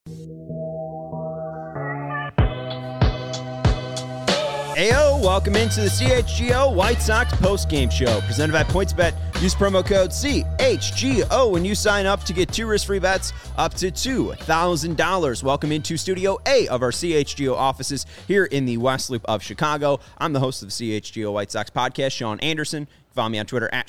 Ayo, welcome into the CHGO White Sox postgame show presented by PointsBet. Use promo code CHGO when you sign up to get 2 risk-free bets up to $2,000. Welcome into Studio A of our CHGO offices here in the West Loop of Chicago. I'm the host of the CHGO White Sox podcast, Sean Anderson. Follow me on Twitter at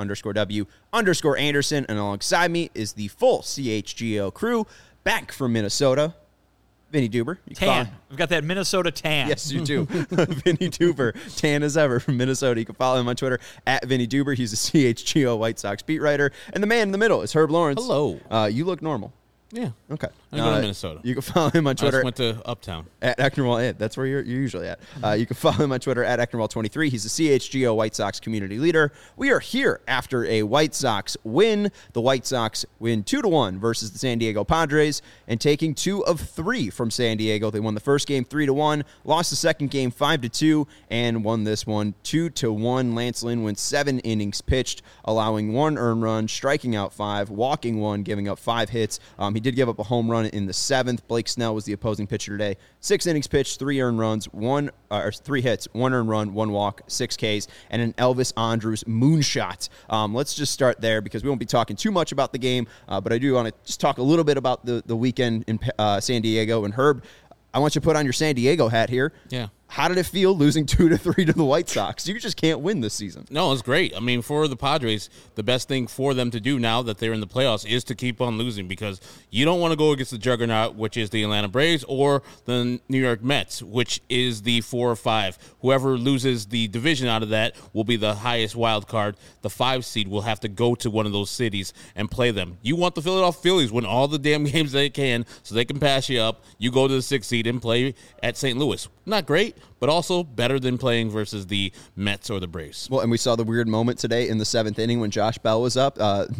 Sean_W_Anderson. And alongside me is the full CHGO crew back from Minnesota. Vinny Duber. Tan. We've got that Minnesota tan. Yes, you do. Vinny Duber, tan as ever from Minnesota. You can follow him on Twitter at Vinny Duber. He's a CHGO White Sox beat writer. And the man in the middle is Herb Lawrence. Hello. You look normal. Yeah. Okay. I go to Minnesota. You can follow him on Twitter. I just went to Uptown. At Ecknerwall. That's where you're usually at. You can follow him on Twitter at Ecknerwall23. He's a CHGO White Sox community leader. We are here after a White Sox win. The White Sox win 2-1 versus the San Diego Padres and taking 2 of 3 from San Diego. They won the first game 3-1, lost the second game 5-2, and won this one 2-1. Lance Lynn went 7 innings pitched, allowing 1 earned run, striking out 5, walking 1, giving up 5 hits. He did give up a home run in the 7th. Blake Snell was the opposing pitcher today. 6 innings pitched, 3 earned runs, 3 hits, 1 earned run, 1 walk, 6 Ks, and an Elvis Andrus moonshot. Let's just start there because we won't be talking too much about the game, but I do want to just talk a little bit about the weekend in San Diego. And Herb, I want you to put on your San Diego hat here. Yeah. How did it feel losing 2-3 to the White Sox? You just can't win this season. No, it's great. I mean, for the Padres, the best thing for them to do now that they're in the playoffs is to keep on losing because you don't want to go against the juggernaut, which is the Atlanta Braves, or the New York Mets, which is the 4 or 5. Whoever loses the division out of that will be the highest wild card. The 5 seed will have to go to one of those cities and play them. You want the Philadelphia Phillies win all the damn games they can so they can pass you up. You go to the 6th seed and play at St. Louis. Not great, but also better than playing versus the Mets or the Braves. Well, and we saw the weird moment today in the 7th inning when Josh Bell was up.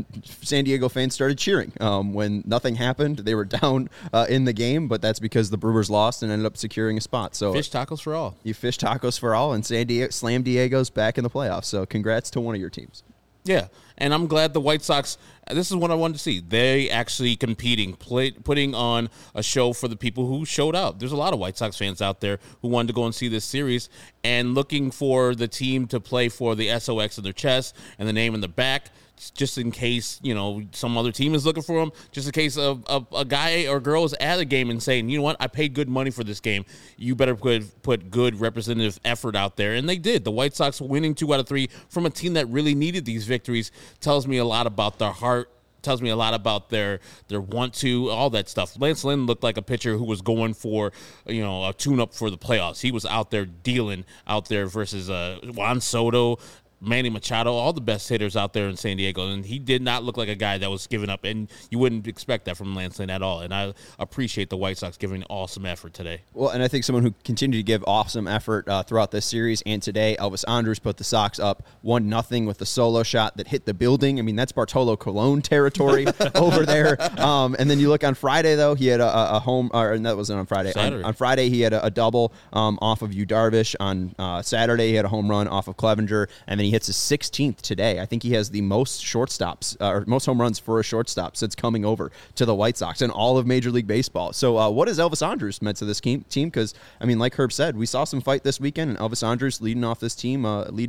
San Diego fans started cheering when nothing happened. They were down in the game, but that's because the Brewers lost and ended up securing a spot. So fish tacos for all. You fish tacos for all, and Slam Diego's back in the playoffs. So congrats to one of your teams. Yeah, and I'm glad the White Sox, this is what I wanted to see. They actually competing, putting on a show for the people who showed up. There's a lot of White Sox fans out there who wanted to go and see this series and looking for the team to play for the SOX in their chest and the name in the back, just in case, some other team is looking for them, just in case a guy or girl is at a game and saying, you know what, I paid good money for this game. You better put good representative effort out there. And they did. The White Sox winning 2 out of 3 from a team that really needed these victories tells me a lot about their heart, tells me a lot about their want to, all that stuff. Lance Lynn looked like a pitcher who was going for, a tune-up for the playoffs. He was out there dealing out there versus Juan Soto, Manny Machado, all the best hitters out there in San Diego, and he did not look like a guy that was giving up, and you wouldn't expect that from Lance Lynn at all, and I appreciate the White Sox giving awesome effort today. Well, and I think someone who continued to give awesome effort throughout this series and today, Elvis Andrus put the Sox up 1-0 with the solo shot that hit the building. I mean, that's Bartolo Colon territory over there. And then you look on Friday, though, he had a home, or that wasn't on Friday. On Friday, he had a double off of Yu Darvish. On Saturday, he had a home run off of Clevenger, and then he hits his 16th today. I think he has the most shortstops or most home runs for a shortstop since coming over to the White Sox in all of Major League Baseball. So what has Elvis Andrus meant to this team? Because, I mean, like Herb said, we saw some fight this weekend, and Elvis Andrus leading off this team,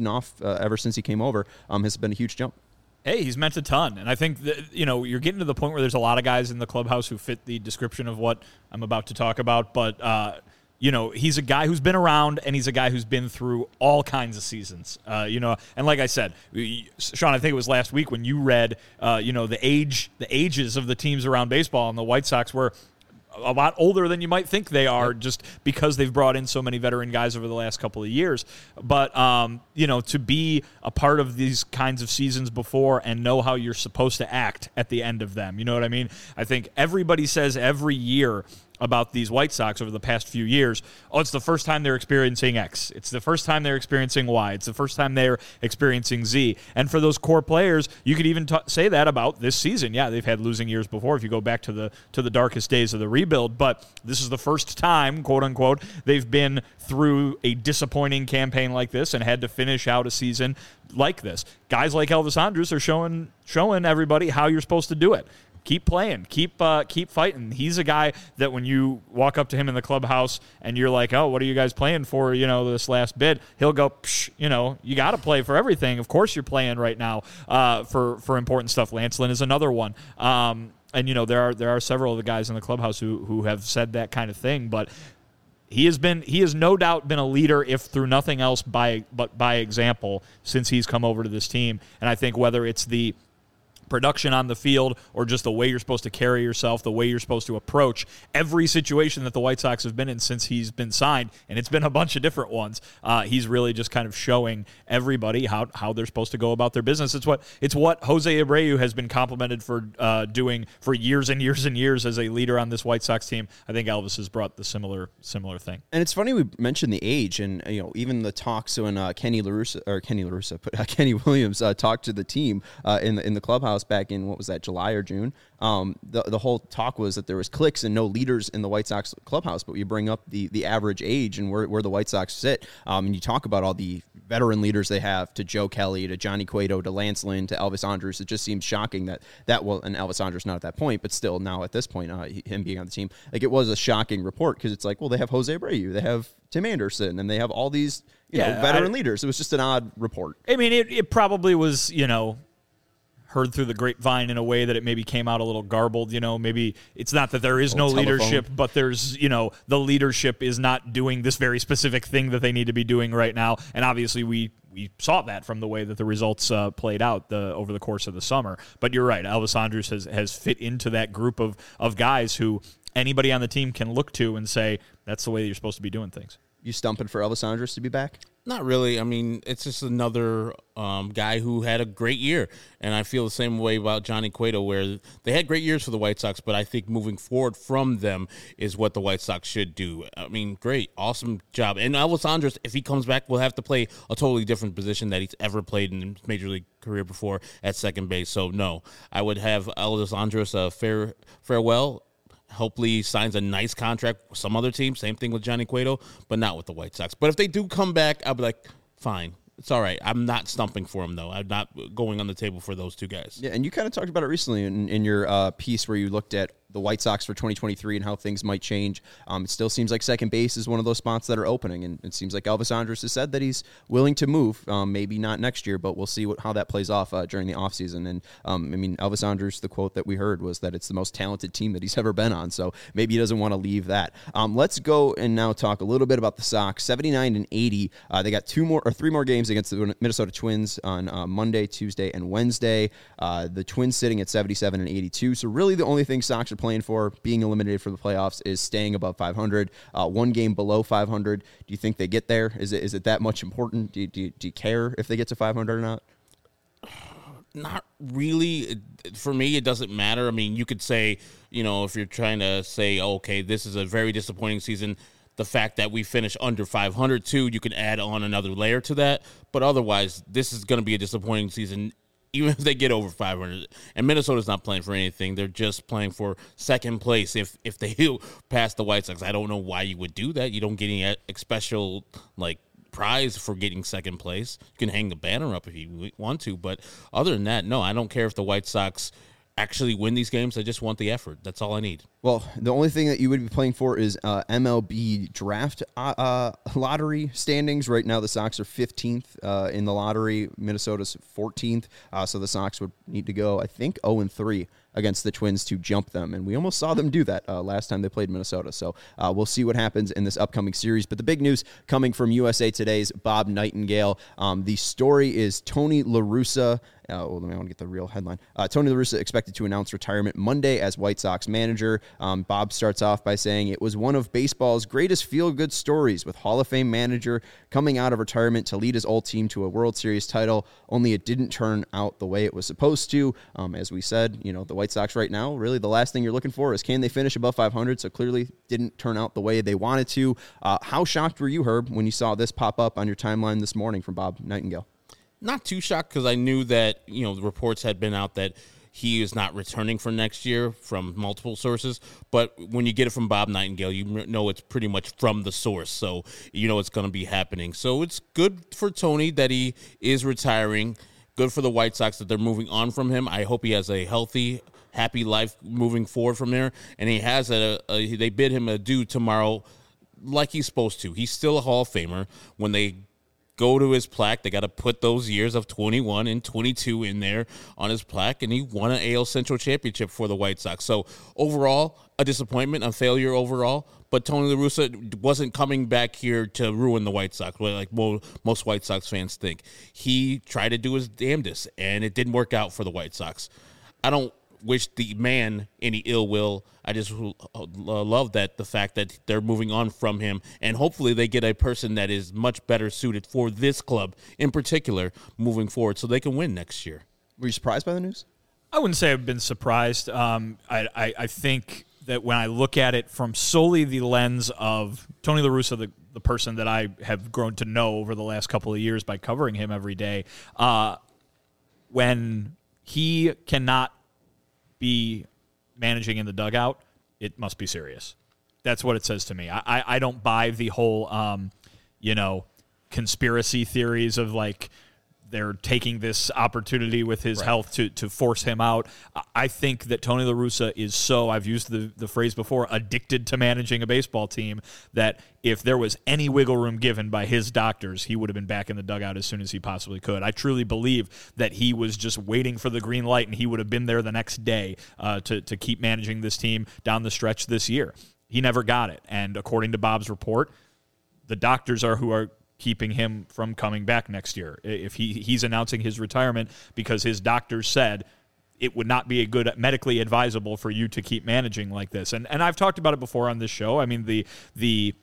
ever since he came over, has been a huge jump. Hey, he's meant a ton. And I think that, you're getting to the point where there's a lot of guys in the clubhouse who fit the description of what I'm about to talk about. But, he's a guy who's been around, and he's a guy who's been through all kinds of seasons. And like I said, Sean, I think it was last week when you read, the ages of the teams around baseball, and the White Sox were a lot older than you might think they are, just because they've brought in so many veteran guys over the last couple of years. But, to be a part of these kinds of seasons before and know how you're supposed to act at the end of them, you know what I mean? I think everybody says every year about these White Sox over the past few years, it's the first time they're experiencing X. It's the first time they're experiencing Y. It's the first time they're experiencing Z. And for those core players, you could even say that about this season. Yeah, they've had losing years before if you go back to the darkest days of the rebuild, but this is the first time, quote unquote, they've been through a disappointing campaign like this and had to finish out a season like this. Guys like Elvis Andrus are showing everybody how you're supposed to do it. keep playing, keep fighting. He's a guy that when you walk up to him in the clubhouse and you're like, oh, what are you guys playing for, this last bid, he'll go, psh, you got to play for everything. Of course you're playing right now for important stuff. Lance Lynn is another one. And, there are several of the guys in the clubhouse who have said that kind of thing, but he has no doubt been a leader, if through nothing else, by example, since he's come over to this team. And I think whether it's the production on the field or just the way you're supposed to carry yourself, the way you're supposed to approach every situation that the White Sox have been in since he's been signed, and it's been a bunch of different ones, he's really just kind of showing everybody how they're supposed to go about their business. It's what Jose Abreu has been complimented for doing for years and years and years as a leader on this White Sox team. I think Elvis has brought the similar thing. And it's funny we mentioned the age, and even the talks when Kenny Williams talked to the team in the clubhouse back in, what was that, July or June? The whole talk was that there was cliques and no leaders in the White Sox clubhouse, but you bring up the average age and where the White Sox sit, and you talk about all the veteran leaders they have, to Joe Kelly, to Johnny Cueto, to Lance Lynn, to Elvis Andrus. It just seems shocking and Elvis Andrus not at that point, but still now at this point, him being on the team, like, it was a shocking report, because it's like, well, they have Jose Abreu, they have Tim Anderson, and they have all these veteran leaders. It was just an odd report. I mean, it probably was, heard through the grapevine in a way that it maybe came out a little garbled. Maybe it's not that there is no leadership, but there's, the leadership is not doing this very specific thing that they need to be doing right now. And obviously we saw that from the way that the results played out over the course of the summer. But you're right, Elvis Andrus has fit into that group of guys who anybody on the team can look to and say, that's the way you're supposed to be doing things. You stumping for Elvis Andrus to be back? Not really. I mean, it's just another guy who had a great year. And I feel the same way about Johnny Cueto, where they had great years for the White Sox, but I think moving forward from them is what the White Sox should do. I mean, great. Awesome job. And Elvis Andrus, if he comes back, will have to play a totally different position that he's ever played in his Major League career before at second base. So, no, I would have Elvis Andrus a farewell. Hopefully he signs a nice contract with some other team. Same thing with Johnny Cueto, but not with the White Sox. But if they do come back, I'll be like, fine. It's all right. I'm not stumping for him, though. I'm not going on the table for those two guys. Yeah, and you kind of talked about it recently in your piece where you looked at the White Sox for 2023 and how things might change. It still seems like second base is one of those spots that are opening, and it seems like Elvis Andrus has said that he's willing to move. Maybe not next year, but we'll see how that plays off during the offseason. And, Elvis Andrus, the quote that we heard was that it's the most talented team that he's ever been on, so maybe he doesn't want to leave that. Let's go and now talk a little bit about the Sox. 79-80. They got 3 more games against the Minnesota Twins on Monday, Tuesday, and Wednesday. The Twins sitting at 77-82. So really the only thing Sox are playing for, being eliminated from the playoffs, is staying above 500. One game below 500. Do you think they get there? Is it that much important? Do you care if they get to 500 or not? Not really. For me, it doesn't matter. I mean, you could say, if you're trying to say, okay, this is a very disappointing season, the fact that we finish under 500 too, you can add on another layer to that. But otherwise, this is going to be a disappointing season, even if they get over 500. And Minnesota's not playing for anything. They're just playing for second place if they pass the White Sox. I don't know why you would do that. You don't get any special, prize for getting second place. You can hang the banner up if you want to. But other than that, no, I don't care if the White Sox actually win these games. I just want the effort. That's all I need. Well, the only thing that you would be playing for is MLB draft lottery standings. Right now, the Sox are 15th in the lottery. Minnesota's 14th. So the Sox would need to go, I think, 0-3 against the Twins to jump them. And we almost saw them do that last time they played Minnesota. So we'll see what happens in this upcoming series. But the big news coming from USA Today's Bob Nightingale. The story is Tony La Russa. I want to get the real headline. Tony La Russa expected to announce retirement Monday as White Sox manager. Bob starts off by saying it was one of baseball's greatest feel-good stories, with Hall of Fame manager coming out of retirement to lead his old team to a World Series title, only it didn't turn out the way it was supposed to. As we said, the White Sox right now, really the last thing you're looking for is can they finish above 500, so clearly didn't turn out the way they wanted to. How shocked were you, Herb, when you saw this pop up on your timeline this morning from Bob Nightingale? Not too shocked, because I knew that, the reports had been out that he is not returning for next year from multiple sources. But when you get it from Bob Nightingale, you know it's pretty much from the source. So you know it's going to be happening. So it's good for Tony that he is retiring. Good for the White Sox that they're moving on from him. I hope he has a healthy happy life moving forward from there. And he has they bid him adieu tomorrow like he's supposed to. He's still a Hall of Famer. When they go to his plaque, they got to put those years of 21 and 22 in there on his plaque, and he won an AL Central championship for the White Sox. So overall, a disappointment, a failure overall, but Tony La Russa wasn't coming back here to ruin the White Sox, like most White Sox fans think. He tried to do his damnedest, and it didn't work out for the White Sox. I don't wish the man any ill will. I just love the fact that they're moving on from him, and hopefully they get a person that is much better suited for this club in particular moving forward so they can win next year. Were you surprised by the news? I wouldn't say I've been surprised. I think that when I look at it from solely the lens of Tony La Russa, the person that I have grown to know over the last couple of years by covering him every day, when he cannot be managing in the dugout, it must be serious. That's what it says to me. I don't buy the whole, conspiracy theories of like they're taking this opportunity with his health to force him out. I think that Tony La Russa is so, I've used the phrase before, addicted to managing a baseball team, that if there was any wiggle room given by his doctors, he would have been back in the dugout as soon as he possibly could. I truly believe that he was just waiting for the green light, and he would have been there the next day to keep managing this team down the stretch this year. He never got it. And according to Bob's report, the doctors are who are keeping him from coming back next year. If he's announcing his retirement because his doctors said it would not be a good medically advisable for you to keep managing like this. And I've talked about it before on this show. I mean, the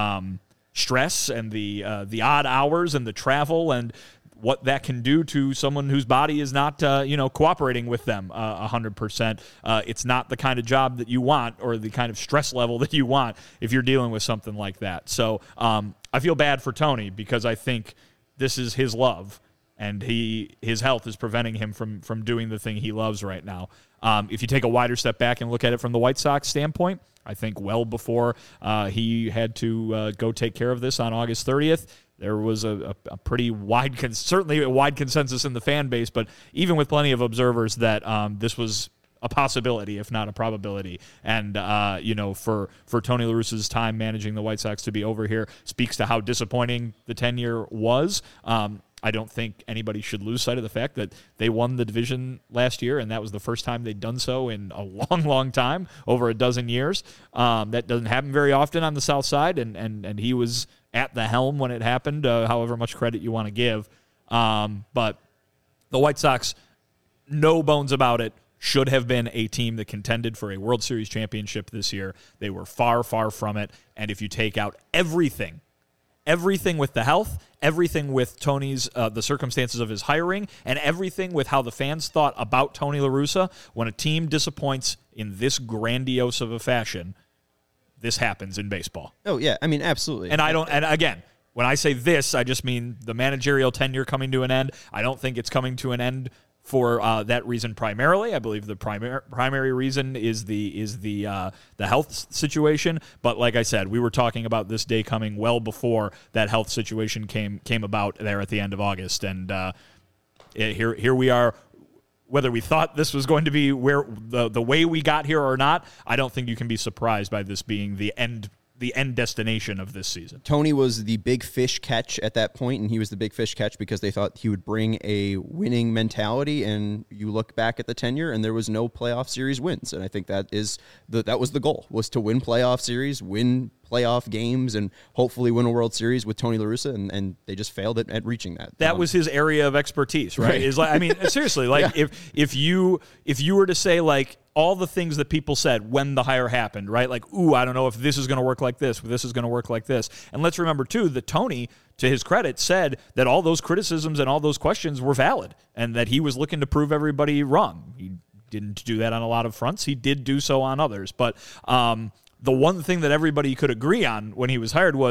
stress and the odd hours and the travel and what that can do to someone whose body is not, cooperating with them 100%. It's not the kind of job that you want or the kind of stress level that you want if you're dealing with something like that. So I feel bad for Tony because I think this is his love, and his health is preventing him from doing the thing he loves right now. If you take a wider step back and look at it from the White Sox standpoint, I think well before he had to go take care of this on August 30th, there was a pretty certainly a wide consensus in the fan base, but even with plenty of observers that this was a possibility, if not a probability. And, for Tony La Russa's time managing the White Sox to be over here speaks to how disappointing the tenure was. I don't think anybody should lose sight of the fact that they won the division last year, and that was the first time they'd done so in a long, long time, over a dozen years. That doesn't happen very often on the South Side, and he was at the helm when it happened, however much credit you want to give. But the White Sox, no bones about it, should have been a team that contended for a World Series championship this year. They were far, far from it. And if you take out everything with the health, everything with Tony's, the circumstances of his hiring, and everything with how the fans thought about Tony La Russa, when a team disappoints in this grandiose of a fashion, this happens in baseball. Oh, yeah. I mean, absolutely. And again, when I say this, I just mean the managerial tenure coming to an end. I don't think it's coming to an end for that reason primarily. I believe the primary reason is the health situation. But like I said, we were talking about this day coming well before that health situation came about there at the end of August. And here we are. Whether we thought this was going to be where the way we got here or not, I don't think you can be surprised by this being the end destination of this season. Tony was the big fish catch at that point, and he was the big fish catch because they thought he would bring a winning mentality. And you look back at the tenure, and there was no playoff series wins. And I think that was the goal, was to win playoff series, win playoff games, and hopefully win a World Series with Tony La Russa, and they just failed at reaching that. That was his area of expertise, right? Is like, I mean, seriously, like yeah. if you were to say like all the things that people said when the hire happened, right? Like, ooh, I don't know if this is going to work like this, or this is going to work like this. And let's remember too that Tony, to his credit, said that all those criticisms and all those questions were valid, and that he was looking to prove everybody wrong. He didn't do that on a lot of fronts. He did do so on others, but the one thing that everybody could agree on when he was hired was,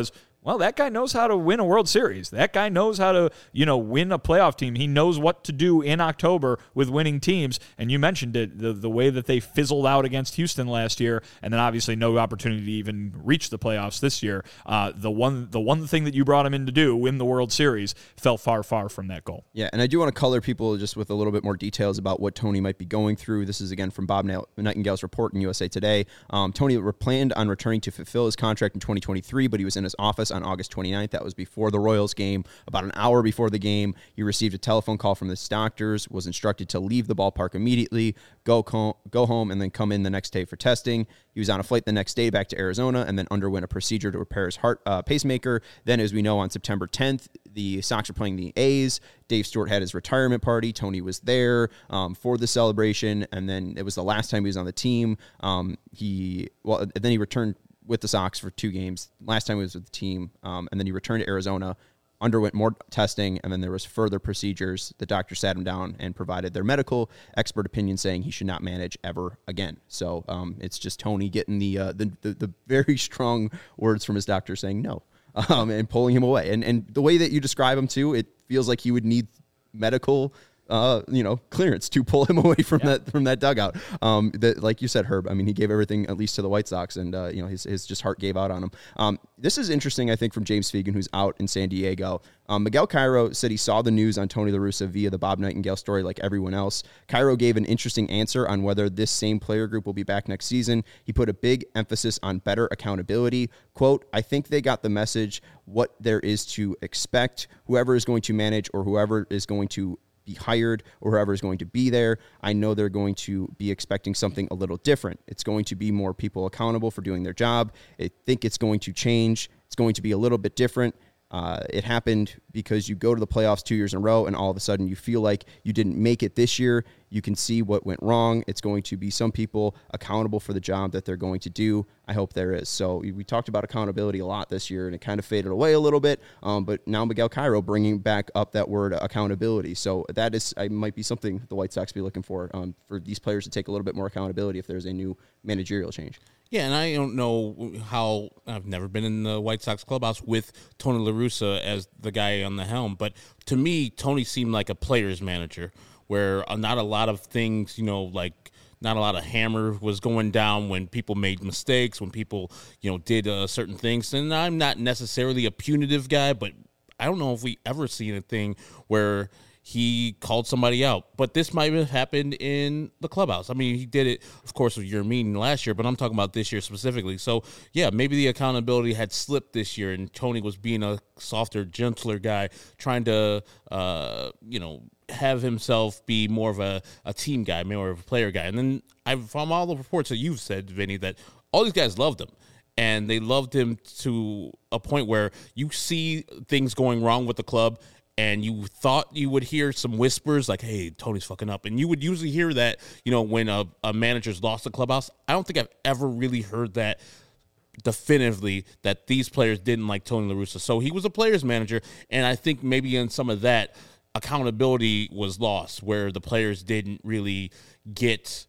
Well, that guy knows how to win a World Series. That guy knows how to, win a playoff team. He knows what to do in October with winning teams. And you mentioned it, the way that they fizzled out against Houston last year, and then obviously no opportunity to even reach the playoffs this year. The one thing that you brought him in to do, win the World Series, fell far, far from that goal. Yeah, and I do want to color people just with a little bit more details about what Tony might be going through. This is, again, from Bob Nightingale's report in USA Today. Tony planned on returning to fulfill his contract in 2023, but he was in his office on August 29th. That was before the Royals game. About an hour before the game, he received a telephone call from his doctors, was instructed to leave the ballpark immediately, go home, and then come in the next day for testing. He was on a flight the next day back to Arizona and then underwent a procedure to repair his heart pacemaker. Then, as we know, on September 10th, the Sox are playing the A's. Dave Stewart had his retirement party. Tony was there for the celebration, and then it was the last time he was on the team. Then he returned with the Sox for 2 games. Last time he was with the team, and then he returned to Arizona, underwent more testing, and then there was further procedures. The doctor sat him down and provided their medical expert opinion saying he should not manage ever again. So it's just Tony getting the very strong words from his doctor saying no, and pulling him away. And the way that you describe him too, it feels like he would need medical clearance to pull him away from that dugout. That, like you said, Herb, I mean, he gave everything at least to the White Sox, and his just heart gave out on him. This is interesting, I think, from James Fegan, who's out in San Diego. Miguel Cairo said he saw the news on Tony La Russa via the Bob Nightingale story like everyone else. Cairo gave an interesting answer on whether this same player group will be back next season. He put a big emphasis on better accountability. Quote, I think they got the message, what there is to expect. Whoever is going to manage or whoever is going to be hired or whoever is going to be there, I know they're going to be expecting something a little different. It's going to be more people accountable for doing their job. I think it's going to change. It's going to be a little bit different. It happened because you go to the playoffs 2 years in a row and all of a sudden you feel like you didn't make it this year. You can see what went wrong. It's going to be some people accountable for the job that they're going to do. I hope there is. So we talked about accountability a lot this year and it kind of faded away a little bit. But now Miguel Cairo bringing back up that word accountability. So that might be something the White Sox be looking for these players to take a little bit more accountability if there's a new managerial change. Yeah, and I don't know how – I've never been in the White Sox clubhouse with Tony La Russa as the guy on the helm. But to me, Tony seemed like a player's manager where not a lot of things, like not a lot of hammer was going down when people made mistakes, when people, did certain things. And I'm not necessarily a punitive guy, but I don't know if we ever seen a thing where – he called somebody out. But this might have happened in the clubhouse. I mean, he did it, of course, with your meeting last year, but I'm talking about this year specifically. So, yeah, maybe the accountability had slipped this year, and Tony was being a softer, gentler guy, trying to, have himself be more of a team guy, more of a player guy. And then from all the reports that you've said, Vinny, that all these guys loved him. And they loved him to a point where you see things going wrong with the club, and you thought you would hear some whispers like, hey, Tony's fucking up. And you would usually hear that, when a manager's lost the clubhouse. I don't think I've ever really heard that definitively, that these players didn't like Tony La Russa. So he was a player's manager, and I think maybe in some of that, accountability was lost, where the players didn't really get,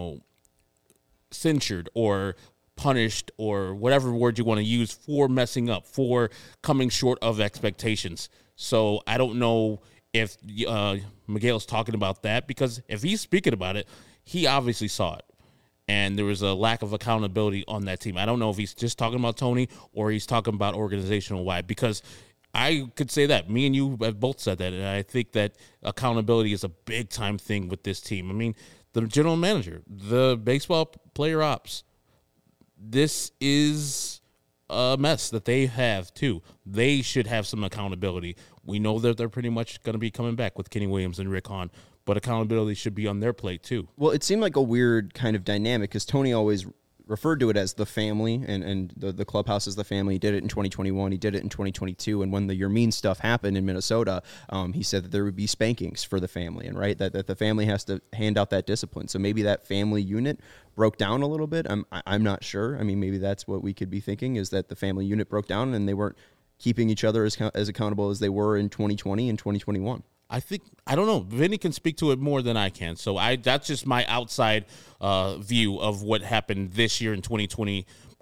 censured or punished or whatever word you want to use for messing up, for coming short of expectations. So I don't know if Miguel's talking about that, because if he's speaking about it, he obviously saw it. And there was a lack of accountability on that team. I don't know if he's just talking about Tony or he's talking about organizational wide, because I could say that. Me and you have both said that, and I think that accountability is a big-time thing with this team. I mean, the general manager, the baseball player ops, this is a mess that they have too. They should have some accountability. We know that they're pretty much going to be coming back with Kenny Williams and Rick Hahn, but accountability should be on their plate too. Well, it seemed like a weird kind of dynamic because Tony always referred to it as the family, and the clubhouse is the family. He did it in 2021. He did it in 2022. And when the Your Mean stuff happened in Minnesota, he said that there would be spankings for the family, and right, that the family has to hand out that discipline. So maybe that family unit broke down a little bit. I'm not sure. I mean, maybe that's what we could be thinking, is that the family unit broke down and they weren't keeping each other as accountable as they were in 2020 and 2021. I don't know. Vinny can speak to it more than I can. So that's just my outside view of what happened this year in 2020,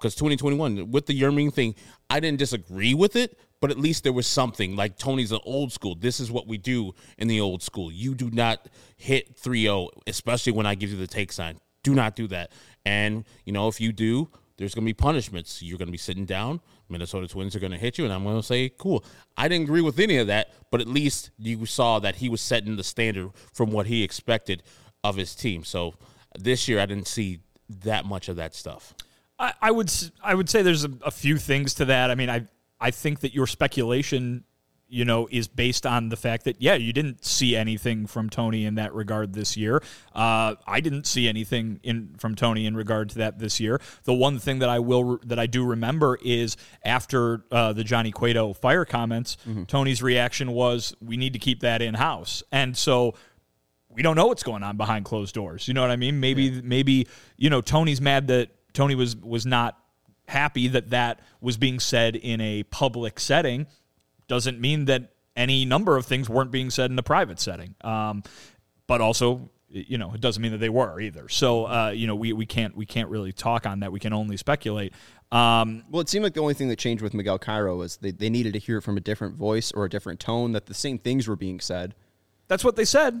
because 2021 with the Yerming thing, I didn't disagree with it, but at least there was something. Like, Tony's an old school. This is what we do in the old school. You do not hit 3-0, especially when I give you the take sign. Do not do that. And, if you do, there's going to be punishments. You're going to be sitting down. Minnesota Twins are going to hit you, and I'm going to say, cool. I didn't agree with any of that, but at least you saw that he was setting the standard from what he expected of his team. So this year I didn't see that much of that stuff. I would say there's a few things to that. I mean, I think that your speculation, is based on the fact that, you didn't see anything from Tony in that regard this year. I didn't see anything from Tony in regard to that this year. The one thing that I do remember is after the Johnny Cueto fire comments, Tony's reaction was, we need to keep that in-house. And so we don't know what's going on behind closed doors. You know what I mean? Maybe Tony's mad that Tony was not happy that was being said in a public setting. Doesn't mean that any number of things weren't being said in a private setting. But also, it doesn't mean that they were either. So, we can't really talk on that. We can only speculate. Well, it seemed like the only thing that changed with Miguel Cairo was they needed to hear it from a different voice or a different tone, that the same things were being said. That's what they said.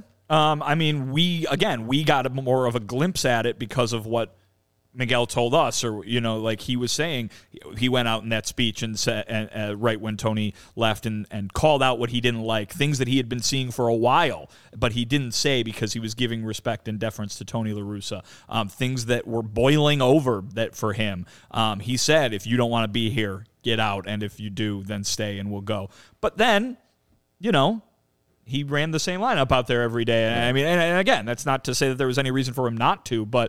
We got more of a glimpse at it because of what Miguel told us, or like he was saying, he went out in that speech and said, right when Tony left, and called out what he didn't like, things that he had been seeing for a while, but he didn't say because he was giving respect and deference to Tony La Russa. Things that were boiling over that for him. He said, if you don't want to be here, get out, and if you do, then stay and we'll go. But then, he ran the same lineup out there every day. I mean, and again, that's not to say that there was any reason for him not to, but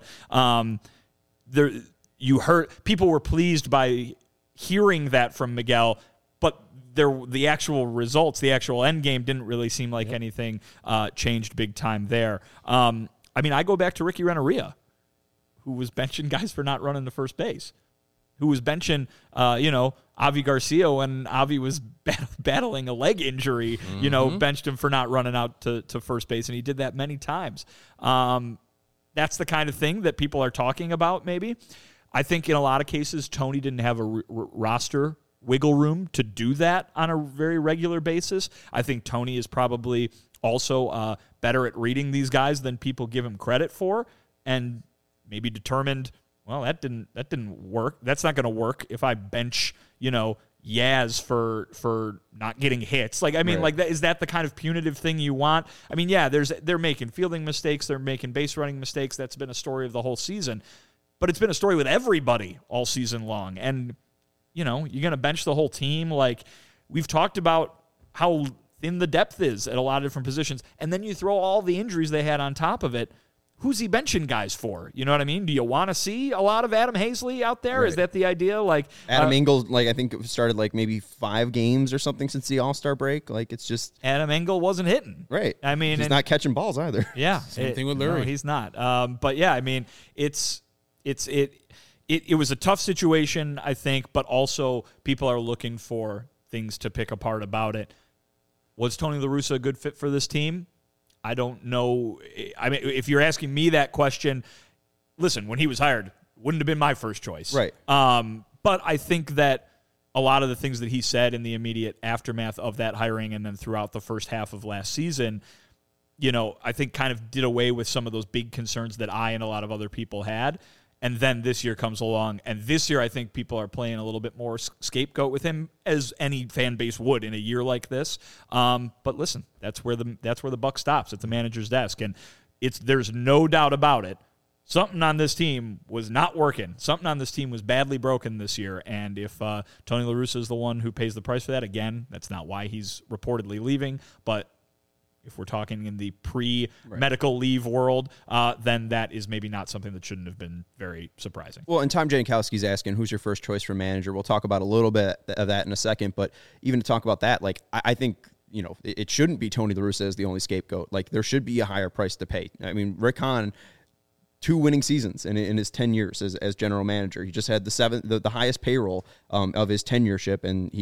you heard people were pleased by hearing that from Miguel, but the actual results, the actual end game didn't really seem like anything changed big time there. I go back to Ricky Renteria, who was benching guys for not running to first base, who was benching, Avi Garcia when Avi was battling a leg injury, benched him for not running out to first base, and he did that many times. That's the kind of thing that people are talking about, maybe. I think in a lot of cases, Tony didn't have a roster wiggle room to do that on a very regular basis. I think Tony is probably also better at reading these guys than people give him credit for, and maybe determined, well, that didn't work. That's not going to work if I bench, Yaz for not getting hits. Like that, is that the kind of punitive thing you want? I mean, they're making fielding mistakes, they're making base running mistakes. That's been a story of the whole season, but it's been a story with everybody all season long. And you're going to bench the whole team. Like, we've talked about how thin the depth is at a lot of different positions, and then you throw all the injuries they had on top of it. Who's he benching guys for? You know what I mean? Do you want to see a lot of Adam Hazley out there? Right. Is that the idea? Like Adam Engel, I think it started maybe 5 games or something since the All-Star break. It's just Adam Engel wasn't hitting. Right. He's not catching balls either. Yeah. Same thing with Lurie. No, he's not. But yeah, it was a tough situation, I think, but also people are looking for things to pick apart about it. Was Tony La Russa a good fit for this team? I don't know. I mean, if you're asking me that question, listen, when he was hired, wouldn't have been my first choice. Right. But I think that a lot of the things that he said in the immediate aftermath of that hiring and then throughout the first half of last season, I think kind of did away with some of those big concerns that I and a lot of other people had. And then this year comes along, and this year I think people are playing a little bit more scapegoat with him, as any fan base would in a year like this. But listen, that's where the buck stops, at the manager's desk, and there's no doubt about it. Something on this team was not working. Something on this team was badly broken this year, and if Tony La Russa is the one who pays the price for that, again, that's not why he's reportedly leaving, but if we're talking in the pre-medical leave world, then that is maybe not something that shouldn't have been very surprising. Well, and Tom Jankowski's asking, who's your first choice for manager? We'll talk about a little bit of that in a second, but even to talk about that, I think, it shouldn't be Tony La Russa as the only scapegoat. There should be a higher price to pay. I mean, Rick Hahn, 2 winning seasons in his 10 years as general manager. He just had the highest payroll of his tenureship, and he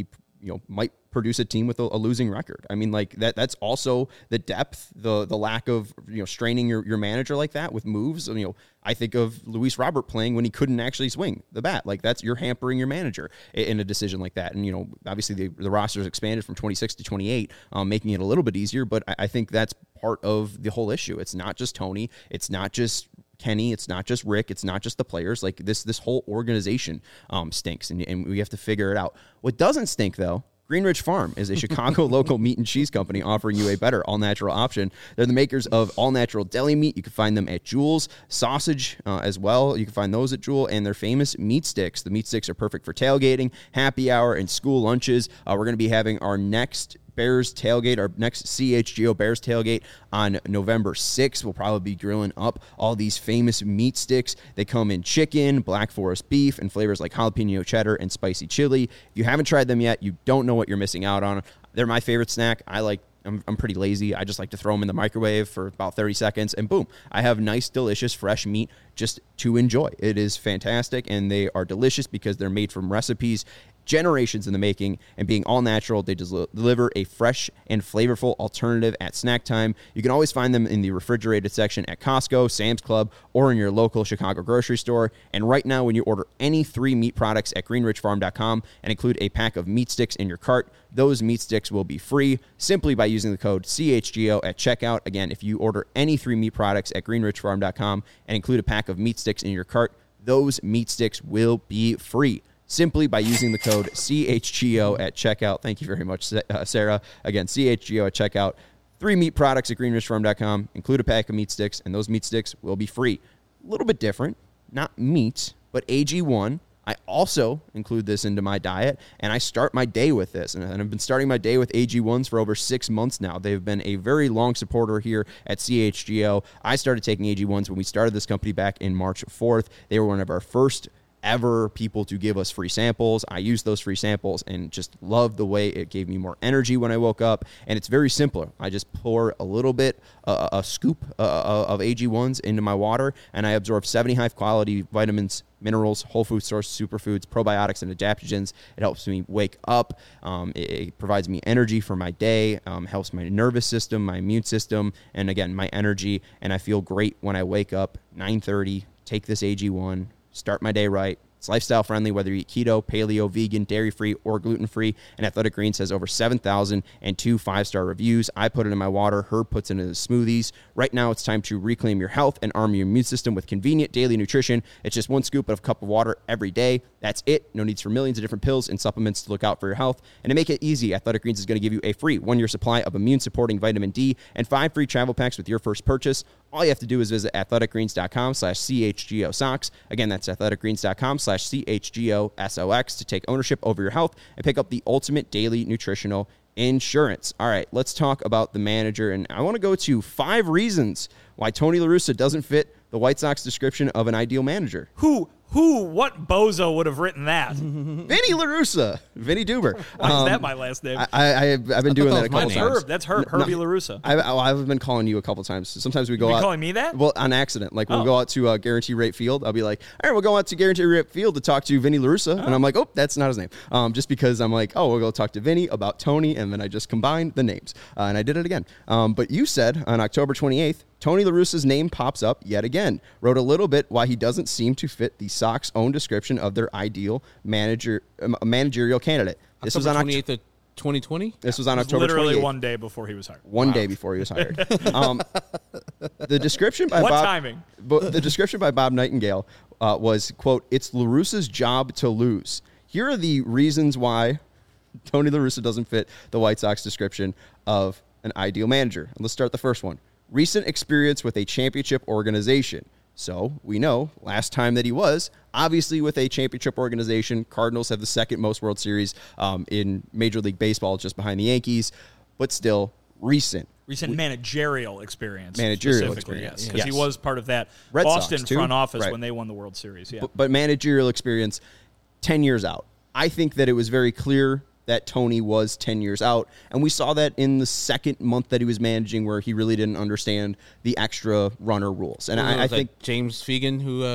might produce a team with a losing record. I mean, like that's also the depth, the lack of, straining your manager like that with moves. I think of Luis Robert playing when he couldn't actually swing the bat. Like you're hampering your manager in a decision like that. And, obviously the roster's expanded from 26 to 28, making it a little bit easier. But I think that's part of the whole issue. It's not just Tony. It's not just Kenny, it's not just Rick, it's not just the players. Like this whole organization stinks, and we have to figure it out. What doesn't stink, though, Greenridge Farm is a Chicago local meat and cheese company offering you a better all-natural option. They're the makers of all-natural deli meat. You can find them at Jewel's. Sausage as well. You can find those at Jewel. And their famous meat sticks. The meat sticks are perfect for tailgating, happy hour, and school lunches. We're going to be having our next Bears tailgate, our next CHGO Bears tailgate on November 6th. We'll probably be grilling up all these famous meat sticks. They come in chicken, Black Forest beef, and flavors like jalapeno cheddar and spicy chili. If you haven't tried them yet, you don't know what you're missing out on. They're my favorite snack. I'm pretty lazy. I just like to throw them in the microwave for about 30 seconds, and boom, I have nice, delicious, fresh meat just to enjoy. It is fantastic, and they are delicious because they're made from recipes generations in the making, and being all natural, they deliver a fresh and flavorful alternative at snack time. You can always find them in the refrigerated section at Costco, Sam's Club, or in your local Chicago grocery store. And right now, when you order any 3 meat products at greenridgefarm.com and include a pack of meat sticks in your cart, those meat sticks will be free simply by using the code CHGO at checkout. Again, if you order any 3 meat products at greenridgefarm.com and include a pack of meat sticks in your cart, those meat sticks will be free simply by using the code CHGO at checkout. Thank you very much, Sarah. Again, CHGO at checkout. 3 meat products at greenridgefarm.com. Include a pack of meat sticks, and those meat sticks will be free. A little bit different. Not meat, but AG1. I also include this into my diet, and I start my day with this. And I've been starting my day with AG1s for over 6 months now. They've been a very long supporter here at CHGO. I started taking AG1s when we started this company back in March 4th. They were one of our first ever people to give us free samples. I used those free samples and just loved the way it gave me more energy when I woke up. And it's very simple. I just pour a little bit, a scoop of AG1s into my water, and I absorb 70 high quality vitamins, minerals, whole food source, superfoods, probiotics, and adaptogens. It helps me wake up. It provides me energy for my day, helps my nervous system, my immune system, and again, my energy. And I feel great when I wake up 9:30, take this AG1, start my day right. It's lifestyle friendly, whether you eat keto, paleo, vegan, dairy-free, or gluten-free. And Athletic Greens has over 7,002 5-star reviews. I put it in my water. Herb puts it in his smoothies. Right now, it's time to reclaim your health and arm your immune system with convenient daily nutrition. It's just 1 scoop of a cup of water every day. That's it. No needs for millions of different pills and supplements to look out for your health. And to make it easy, Athletic Greens is going to give you a free 1-year supply of immune-supporting vitamin D and 5 free travel packs with your first purchase. All you have to do is visit athleticgreens.com/CHGO socks. Again, that's athleticgreens.com/CHGO SOX to take ownership over your health and pick up the ultimate daily nutritional insurance. All right, let's talk about the manager. And I want to go to 5 reasons why Tony La Russa doesn't fit the White Sox description of an ideal manager. What bozo would have written that? Vinny La Russa. Vinny Duber. Why is that my last name? I've been doing that a couple times. That's Herbie La Russa. I've been calling you a couple times. Sometimes we go out. Calling me that? Well, on accident. Like we'll go out to Guarantee Rate Field. I'll be like, all right, we'll go out to Guarantee Rate Field to talk to Vinny La Russa. And I'm like, oh, that's not his name. Just because I'm like, oh, we'll go talk to Vinny about Tony. And then I just combined the names. And I did it again. But you said on October 28th, Tony La Russa's name pops up yet again. Wrote a little bit why he doesn't seem to fit the Sox' own description of their ideal managerial candidate. This was on October 28th of 2020? This was on October 28th. Literally 1 day before he was hired. One day before he was hired. The description by the description by Bob Nightingale was, quote, "It's La Russa's job to lose." Here are the reasons why Tony La Russa doesn't fit the White Sox description of an ideal manager. And let's start the first one. Recent experience with a championship organization. So we know last time that he was obviously with a championship organization. Cardinals have the second most World Series in Major League Baseball, just behind the Yankees, but still recent managerial experience. Managerial experience. Because he was part of that Red Boston Sox, too. front office Right. when they won the World Series. Yeah. But managerial experience 10 years out. I think that it was very clear that Tony was 10 years out. And we saw that in the second month that he was managing, where he really didn't understand the extra runner rules. And I think James Fegan who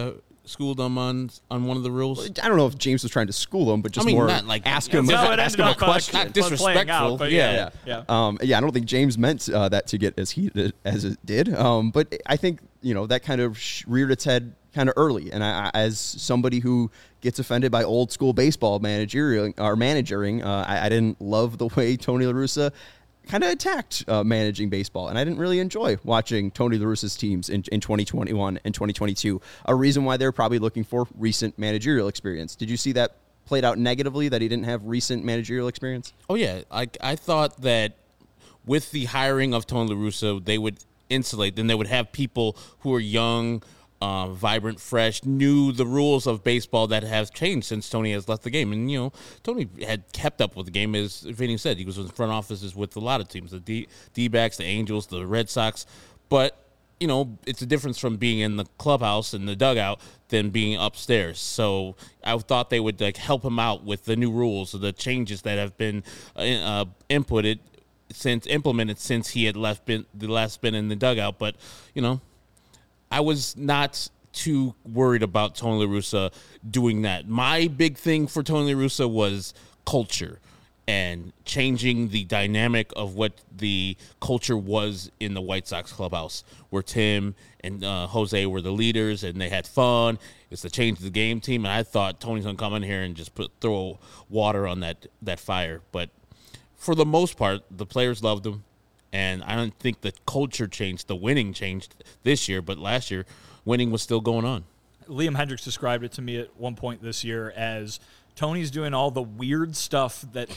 schooled him on one of the rules? I don't know if James was trying to school him, but just mean, more not like ask him, No, it ask ended him a up question. Not disrespectful. Out, but Yeah. yeah. I don't think James meant that to get as heated as it did. But I think, that kind of reared its head kind of early. And I, as somebody who gets offended by old school baseball managing, I didn't love the way Tony La Russa kind of attacked managing baseball. And I didn't really enjoy watching Tony La Russa's teams in 2021 and 2022. A reason why they're probably looking for recent managerial experience. Did you see that played out negatively, that he didn't have recent managerial experience? Oh, yeah. I thought that with the hiring of Tony La Russa, they would insulate. Then they would have people who are young, vibrant, fresh, knew the rules of baseball that have changed since Tony has left the game. And, Tony had kept up with the game, as Vinny said. He was in front offices with a lot of teams, the D-backs, the Angels, the Red Sox. But, it's a difference from being in the clubhouse and the dugout than being upstairs. So I thought they would help him out with the new rules, or the changes that have been implemented since he had last been in the dugout. But, I was not too worried about Tony La Russa doing that. My big thing for Tony La Russa was culture and changing the dynamic of what the culture was in the White Sox clubhouse, where Tim and Jose were the leaders and they had fun. It's the change of the game team. And I thought Tony's going to come in here and just throw water on that fire. But for the most part, the players loved him. And I don't think the culture changed. The winning changed this year, but last year, winning was still going on. Liam Hendricks described it to me at one point this year as Tony's doing all the weird stuff that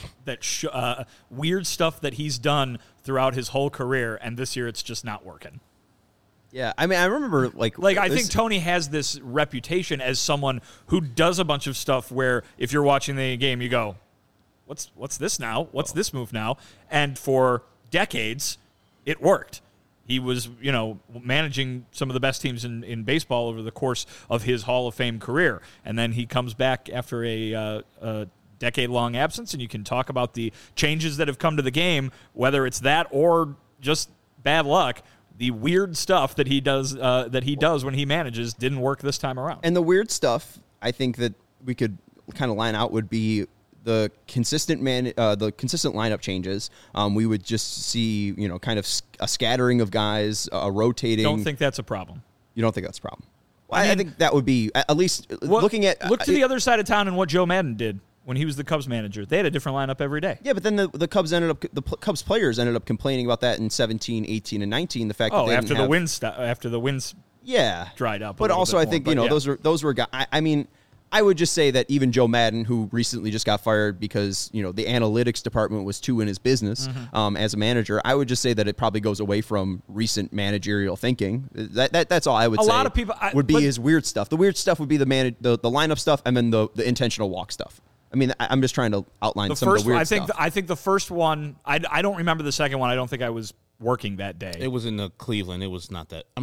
he's done throughout his whole career, and this year it's just not working. Yeah, I mean, I remember I think Tony has this reputation as someone who does a bunch of stuff where if you're watching the game, you go, "What's this now? What's this move now?" And for decades, it worked. He was, managing some of the best teams in baseball over the course of his Hall of Fame career. And then he comes back after a decade-long absence, and you can talk about the changes that have come to the game, whether it's that or just bad luck. The weird stuff that he does when he manages didn't work this time around. And the weird stuff, I think that we could kind of line out would be the consistent lineup changes. We would just see, kind of a scattering of guys, rotating. Don't think that's a problem. You don't think that's a problem? Well, I think that would be at least looking at. Look to the other side of town and what Joe Madden did when he was the Cubs manager. They had a different lineup every day. Yeah, but then the Cubs Cubs players ended up complaining about that in 17, 18, and 19. The fact that they after the wins dried up. But also, I think those were guys. I mean, I would just say that even Joe Madden, who recently just got fired because, the analytics department was too in his business as a manager, I would just say that it probably goes away from recent managerial thinking. That's all I would say. A lot of people would be his weird stuff. The weird stuff would be the lineup stuff and then the intentional walk stuff. I mean, I'm just trying to outline some of the weird stuff. I think the first one, I don't remember the second one. I don't think I was working that day. It was in Cleveland. It was not that.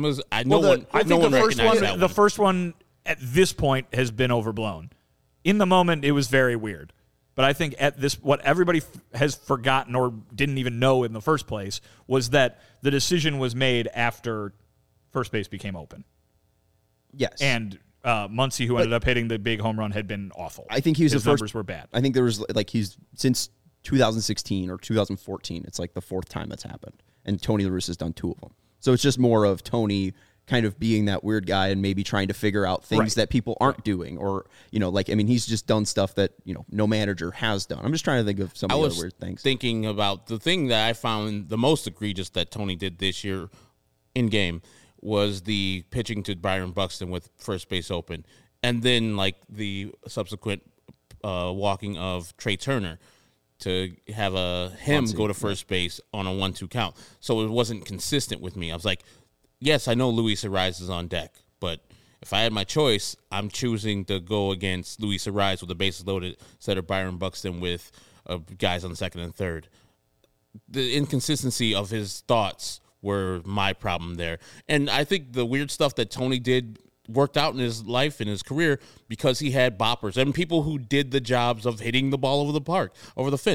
The first one at this point has been overblown. In the moment, it was very weird. But I think what everybody has forgotten or didn't even know in the first place was that the decision was made after first base became open. Yes. And Muncy, who ended up hitting the big home run, had been awful. I think his numbers were bad. I think there was he's since 2016 or 2014. It's like the fourth time that's happened, and Tony La Russa's done two of them. So it's just more of Tony kind of being that weird guy and maybe trying to figure out things that people aren't doing, or he's just done stuff that no manager has done. I'm just trying to think of some of the other weird things. Thinking about the thing that I found the most egregious that Tony did this year in game was the pitching to Byron Buxton with first base open, and then the subsequent walking of Trey Turner to have him go to first base on a 1-2 count. So it wasn't consistent with me. I was like, yes, I know Luis Ariz is on deck, but if I had my choice, I'm choosing to go against Luis Ariz with the bases loaded instead of Byron Buxton with guys on second and third. The inconsistency of his thoughts were my problem there. And I think the weird stuff that Tony did worked out in his life, in his career, because he had boppers and people who did the jobs of hitting the ball over the fence.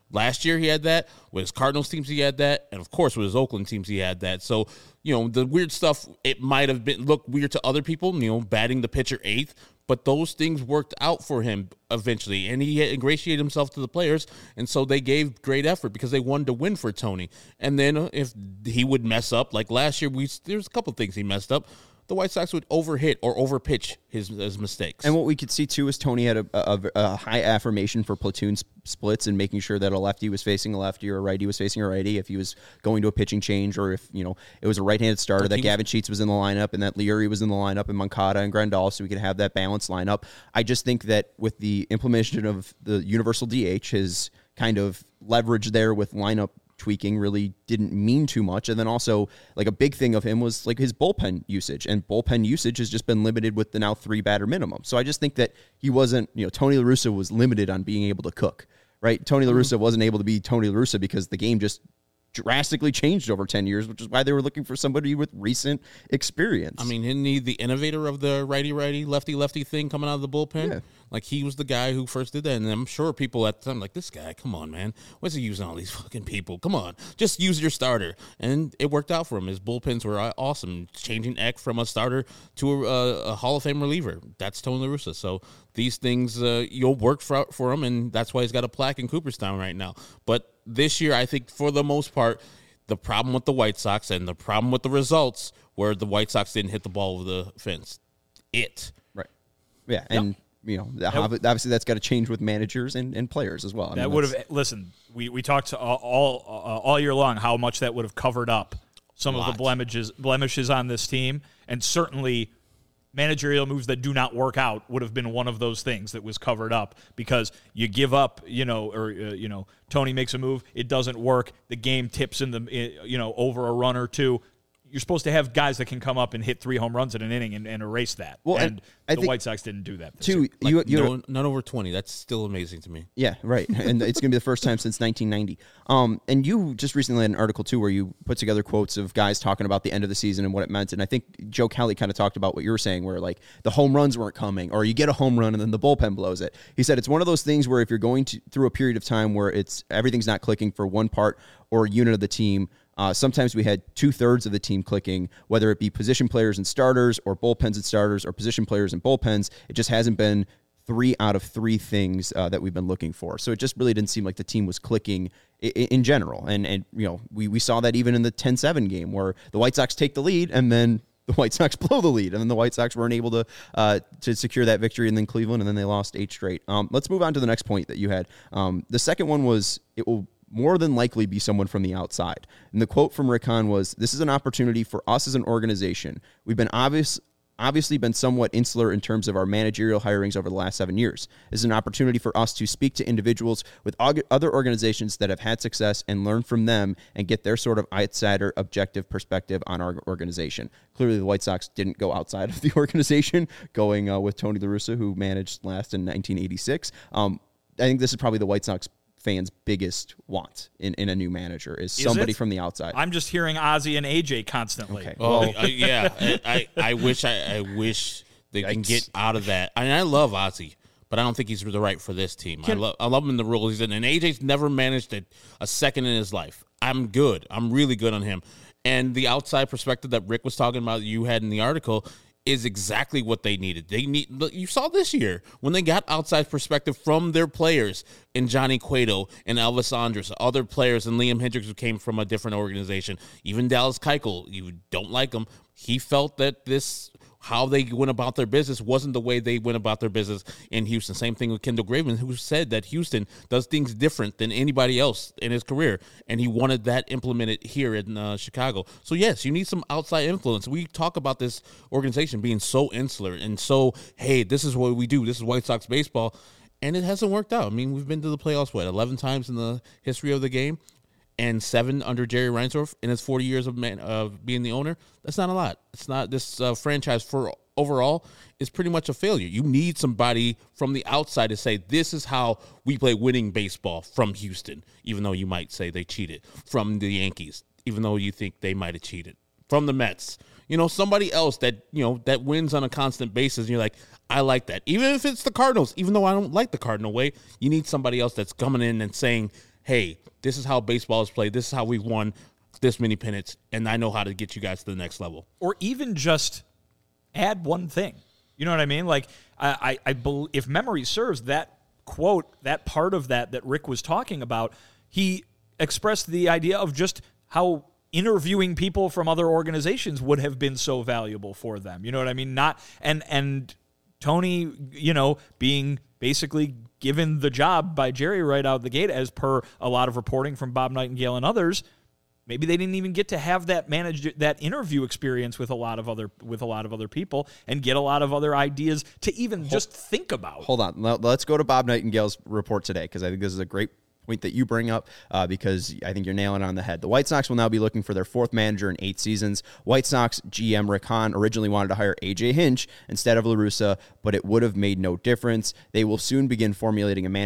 Last year he had that. With his Cardinals teams he had that. And, of course, with his Oakland teams he had that. So, the weird stuff, it might have looked weird to other people, batting the pitcher eighth. But those things worked out for him eventually, and he ingratiated himself to the players, and so they gave great effort because they wanted to win for Tony. And then if he would mess up, like last year, there's a couple things he messed up. The White Sox would overhit or overpitch his mistakes. And what we could see, too, is Tony had a high affirmation for platoon splits and making sure that a lefty was facing a lefty or a righty was facing a righty if he was going to a pitching change, or if, it was a right-handed starter, that Gavin Sheets was in the lineup and that Leary was in the lineup and Moncada and Grandal, so we could have that balanced lineup. I just think that with the implementation of the universal DH, his kind of leverage there with lineup tweaking really didn't mean too much. And then also, like, a big thing of him was like his bullpen usage, and bullpen usage has just been limited with the now 3-batter minimum. So I just think that he wasn't, Tony La Russa was limited on being able to cook, right? Tony La Russa wasn't able to be Tony La Russa because the game just drastically changed over 10 years, which is why they were looking for somebody with recent experience. I mean, isn't he the innovator of the righty-righty, lefty-lefty thing coming out of the bullpen? Yeah. Like, he was the guy who first did that, and I'm sure people at the time like, this guy, come on, man. What's he using all these fucking people? Come on, just use your starter. And it worked out for him. His bullpens were awesome, changing Eck from a starter to a Hall of Fame reliever. That's Tony La Russa. So these things, you'll work for him, and that's why he's got a plaque in Cooperstown right now. But this year, I think for the most part, the problem with the White Sox and the problem with the results were the White Sox didn't hit the ball over the fence. Right. Yeah, and obviously that's got to change with managers and players as well. That would have we talked all year long how much that would have covered up some of the blemishes on this team, and certainly managerial moves that do not work out would have been one of those things that was covered up, because you give up, Tony makes a move, it doesn't work, the game tips in the, over a run or two. You're supposed to have guys that can come up and hit 3 home runs in an inning and erase that. Well, and the White Sox didn't do that. Too, none over 20. That's still amazing to me. Yeah, right. And it's going to be the first time since 1990. And you just recently had an article, too, where you put together quotes of guys talking about the end of the season and what it meant. And I think Joe Kelly kind of talked about what you were saying, where, like, the home runs weren't coming, or you get a home run and then the bullpen blows it. He said it's one of those things where if you're going through a period of time where everything's not clicking for one part or unit of the team, sometimes we had 2/3 of the team clicking, whether it be position players and starters, or bullpens and starters, or position players and bullpens. It just hasn't been 3 out of 3 things that we've been looking for. So it just really didn't seem like the team was clicking in general. And we saw that even in the 10-7 game, where the White Sox take the lead and then the White Sox blow the lead, and then the White Sox weren't able to secure that victory, and then Cleveland, and then they lost 8 straight. Let's move on to the next point that you had. The second one was, it will more than likely be someone from the outside. And the quote from Rick Hahn was, "This is an opportunity for us as an organization. We've been obviously been somewhat insular in terms of our managerial hirings over the last 7 years. This is an opportunity for us to speak to individuals with other organizations that have had success and learn from them and get their sort of outsider objective perspective on our organization." Clearly, the White Sox didn't go outside of the organization, going with Tony La Russa, who managed last in 1986. I think this is probably the White Sox fans' biggest want in a new manager is somebody from the outside. I'm just hearing Ozzie and AJ constantly. Okay. Oh, yeah. I wish they can get out of that. I mean, I love Ozzie, but I don't think he's the right for this team. I love him in the role he's in, and AJ's never managed a second in his life. I'm really good on him. And the outside perspective that Rick was talking about, you had in the article, is exactly what they needed. You saw this year when they got outside perspective from their players in Johnny Cueto and Elvis Andrus, other players, and Liam Hendricks, who came from a different organization. Even Dallas Keuchel, you don't like him. He felt that how they went about their business wasn't the way they went about their business in Houston. Same thing with Kendall Graveman, who said that Houston does things different than anybody else in his career, and he wanted that implemented here in Chicago. So, yes, you need some outside influence. We talk about this organization being so insular and so, hey, this is what we do. This is White Sox baseball, and it hasn't worked out. I mean, we've been to the playoffs, 11 times in the history of the game, and 7 under Jerry Reinsdorf in his 40 years of being the owner. That's not a lot. It's not this franchise for overall is pretty much a failure. You need somebody from the outside to say, this is how we play winning baseball from Houston, even though you might say they cheated, from the Yankees, even though you think they might have cheated, from the Mets. Somebody else that wins on a constant basis, and you're like, I like that. Even if it's the Cardinals, even though I don't like the Cardinal way, you need somebody else that's coming in and saying, hey, this is how baseball is played. This is how we've won this many pennants, and I know how to get you guys to the next level. Or even just add one thing. You know what I mean? Like, I believe, if memory serves, that quote, that part of that Rick was talking about, he expressed the idea of just how interviewing people from other organizations would have been so valuable for them. You know what I mean? And Tony, being basically given the job by Jerry right out the gate, as per a lot of reporting from Bob Nightingale and others. Maybe they didn't even get to have that interview experience with a lot of other people and get a lot of other ideas to even just think about. Hold on. Let's go to Bob Nightingale's report today, because I think this is a great point that you bring up, because I think you're nailing it on the head. The White Sox will now be looking for their fourth manager in 8 seasons. White Sox GM Rick Hahn originally wanted to hire A.J. Hinch instead of La Russa, but it would have made no difference. They will soon begin formulating a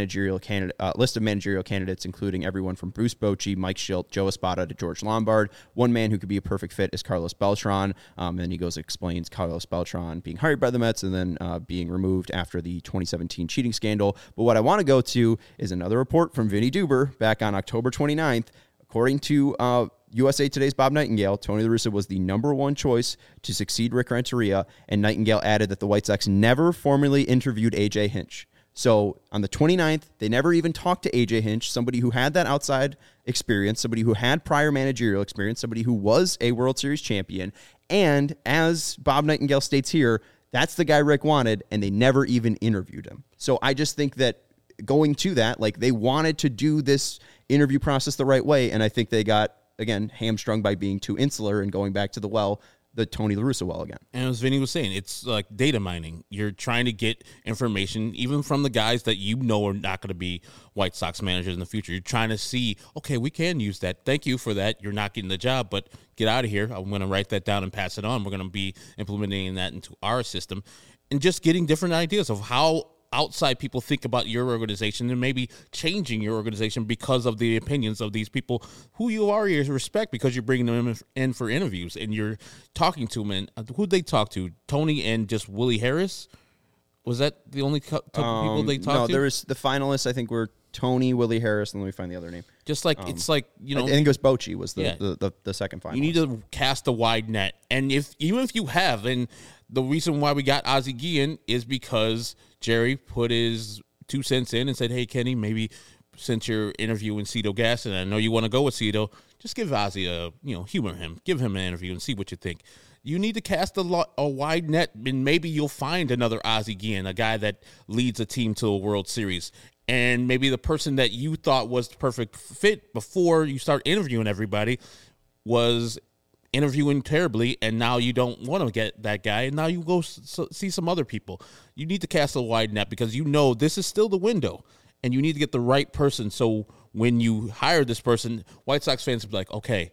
list of managerial candidates, including everyone from Bruce Bochy, Mike Schilt, Joe Espada to George Lombard. One man who could be a perfect fit is Carlos Beltran. And he explains Carlos Beltran being hired by the Mets and then being removed after the 2017 cheating scandal. But what I want to go to is another report from Vinny Duber back on October 29th. According to USA Today's Bob Nightingale, Tony La Russa was the number one choice to succeed Rick Renteria, and Nightingale added that the White Sox never formally interviewed A.J. Hinch. So on the 29th, they never even talked to A.J. Hinch, somebody who had that outside experience, somebody who had prior managerial experience, somebody who was a World Series champion, and as Bob Nightingale states here, that's the guy Rick wanted, and they never even interviewed him. So I just think that going to that, like, they wanted to do this interview process the right way, and I think they got, again, hamstrung by being too insular and going back to the Tony La Russa well again. And as Vinny was saying, it's like data mining. You're trying to get information even from the guys that you know are not going to be White Sox managers in the future. You're trying to see, okay, we can use that. Thank you for that. You're not getting the job, but get out of here. I'm going to write that down and pass it on. We're going to be implementing that into our system and just getting different ideas of how outside people think about your organization and maybe changing your organization because of the opinions of these people who you already respect, because you're bringing them in for interviews and you're talking to them. And who'd they talk to? Tony and just Willie Harris? Was that the only couple people they talked to? No, there was the finalists, I think, were Tony, Willie Harris, and let me find the other name. Just like, it's like, I think it was Bochy was the second finalist. You need to cast a wide net. And even if you have, and the reason why we got Ozzie Guillen is because Jerry put his 2 cents in and said, hey, Kenny, maybe since you're interviewing Cito Gaston, and I know you want to go with Cito, just give Ozzie humor him. Give him an interview and see what you think. You need to cast a wide net, and maybe you'll find another Ozzie Guillen, a guy that leads a team to a World Series. And maybe the person that you thought was the perfect fit before you start interviewing everybody was interviewing terribly, and now you don't want to get that guy, and now you go see some other people. You need to cast a wide net because you know this is still the window, and you need to get the right person. So when you hire this person, White Sox fans will be like, okay,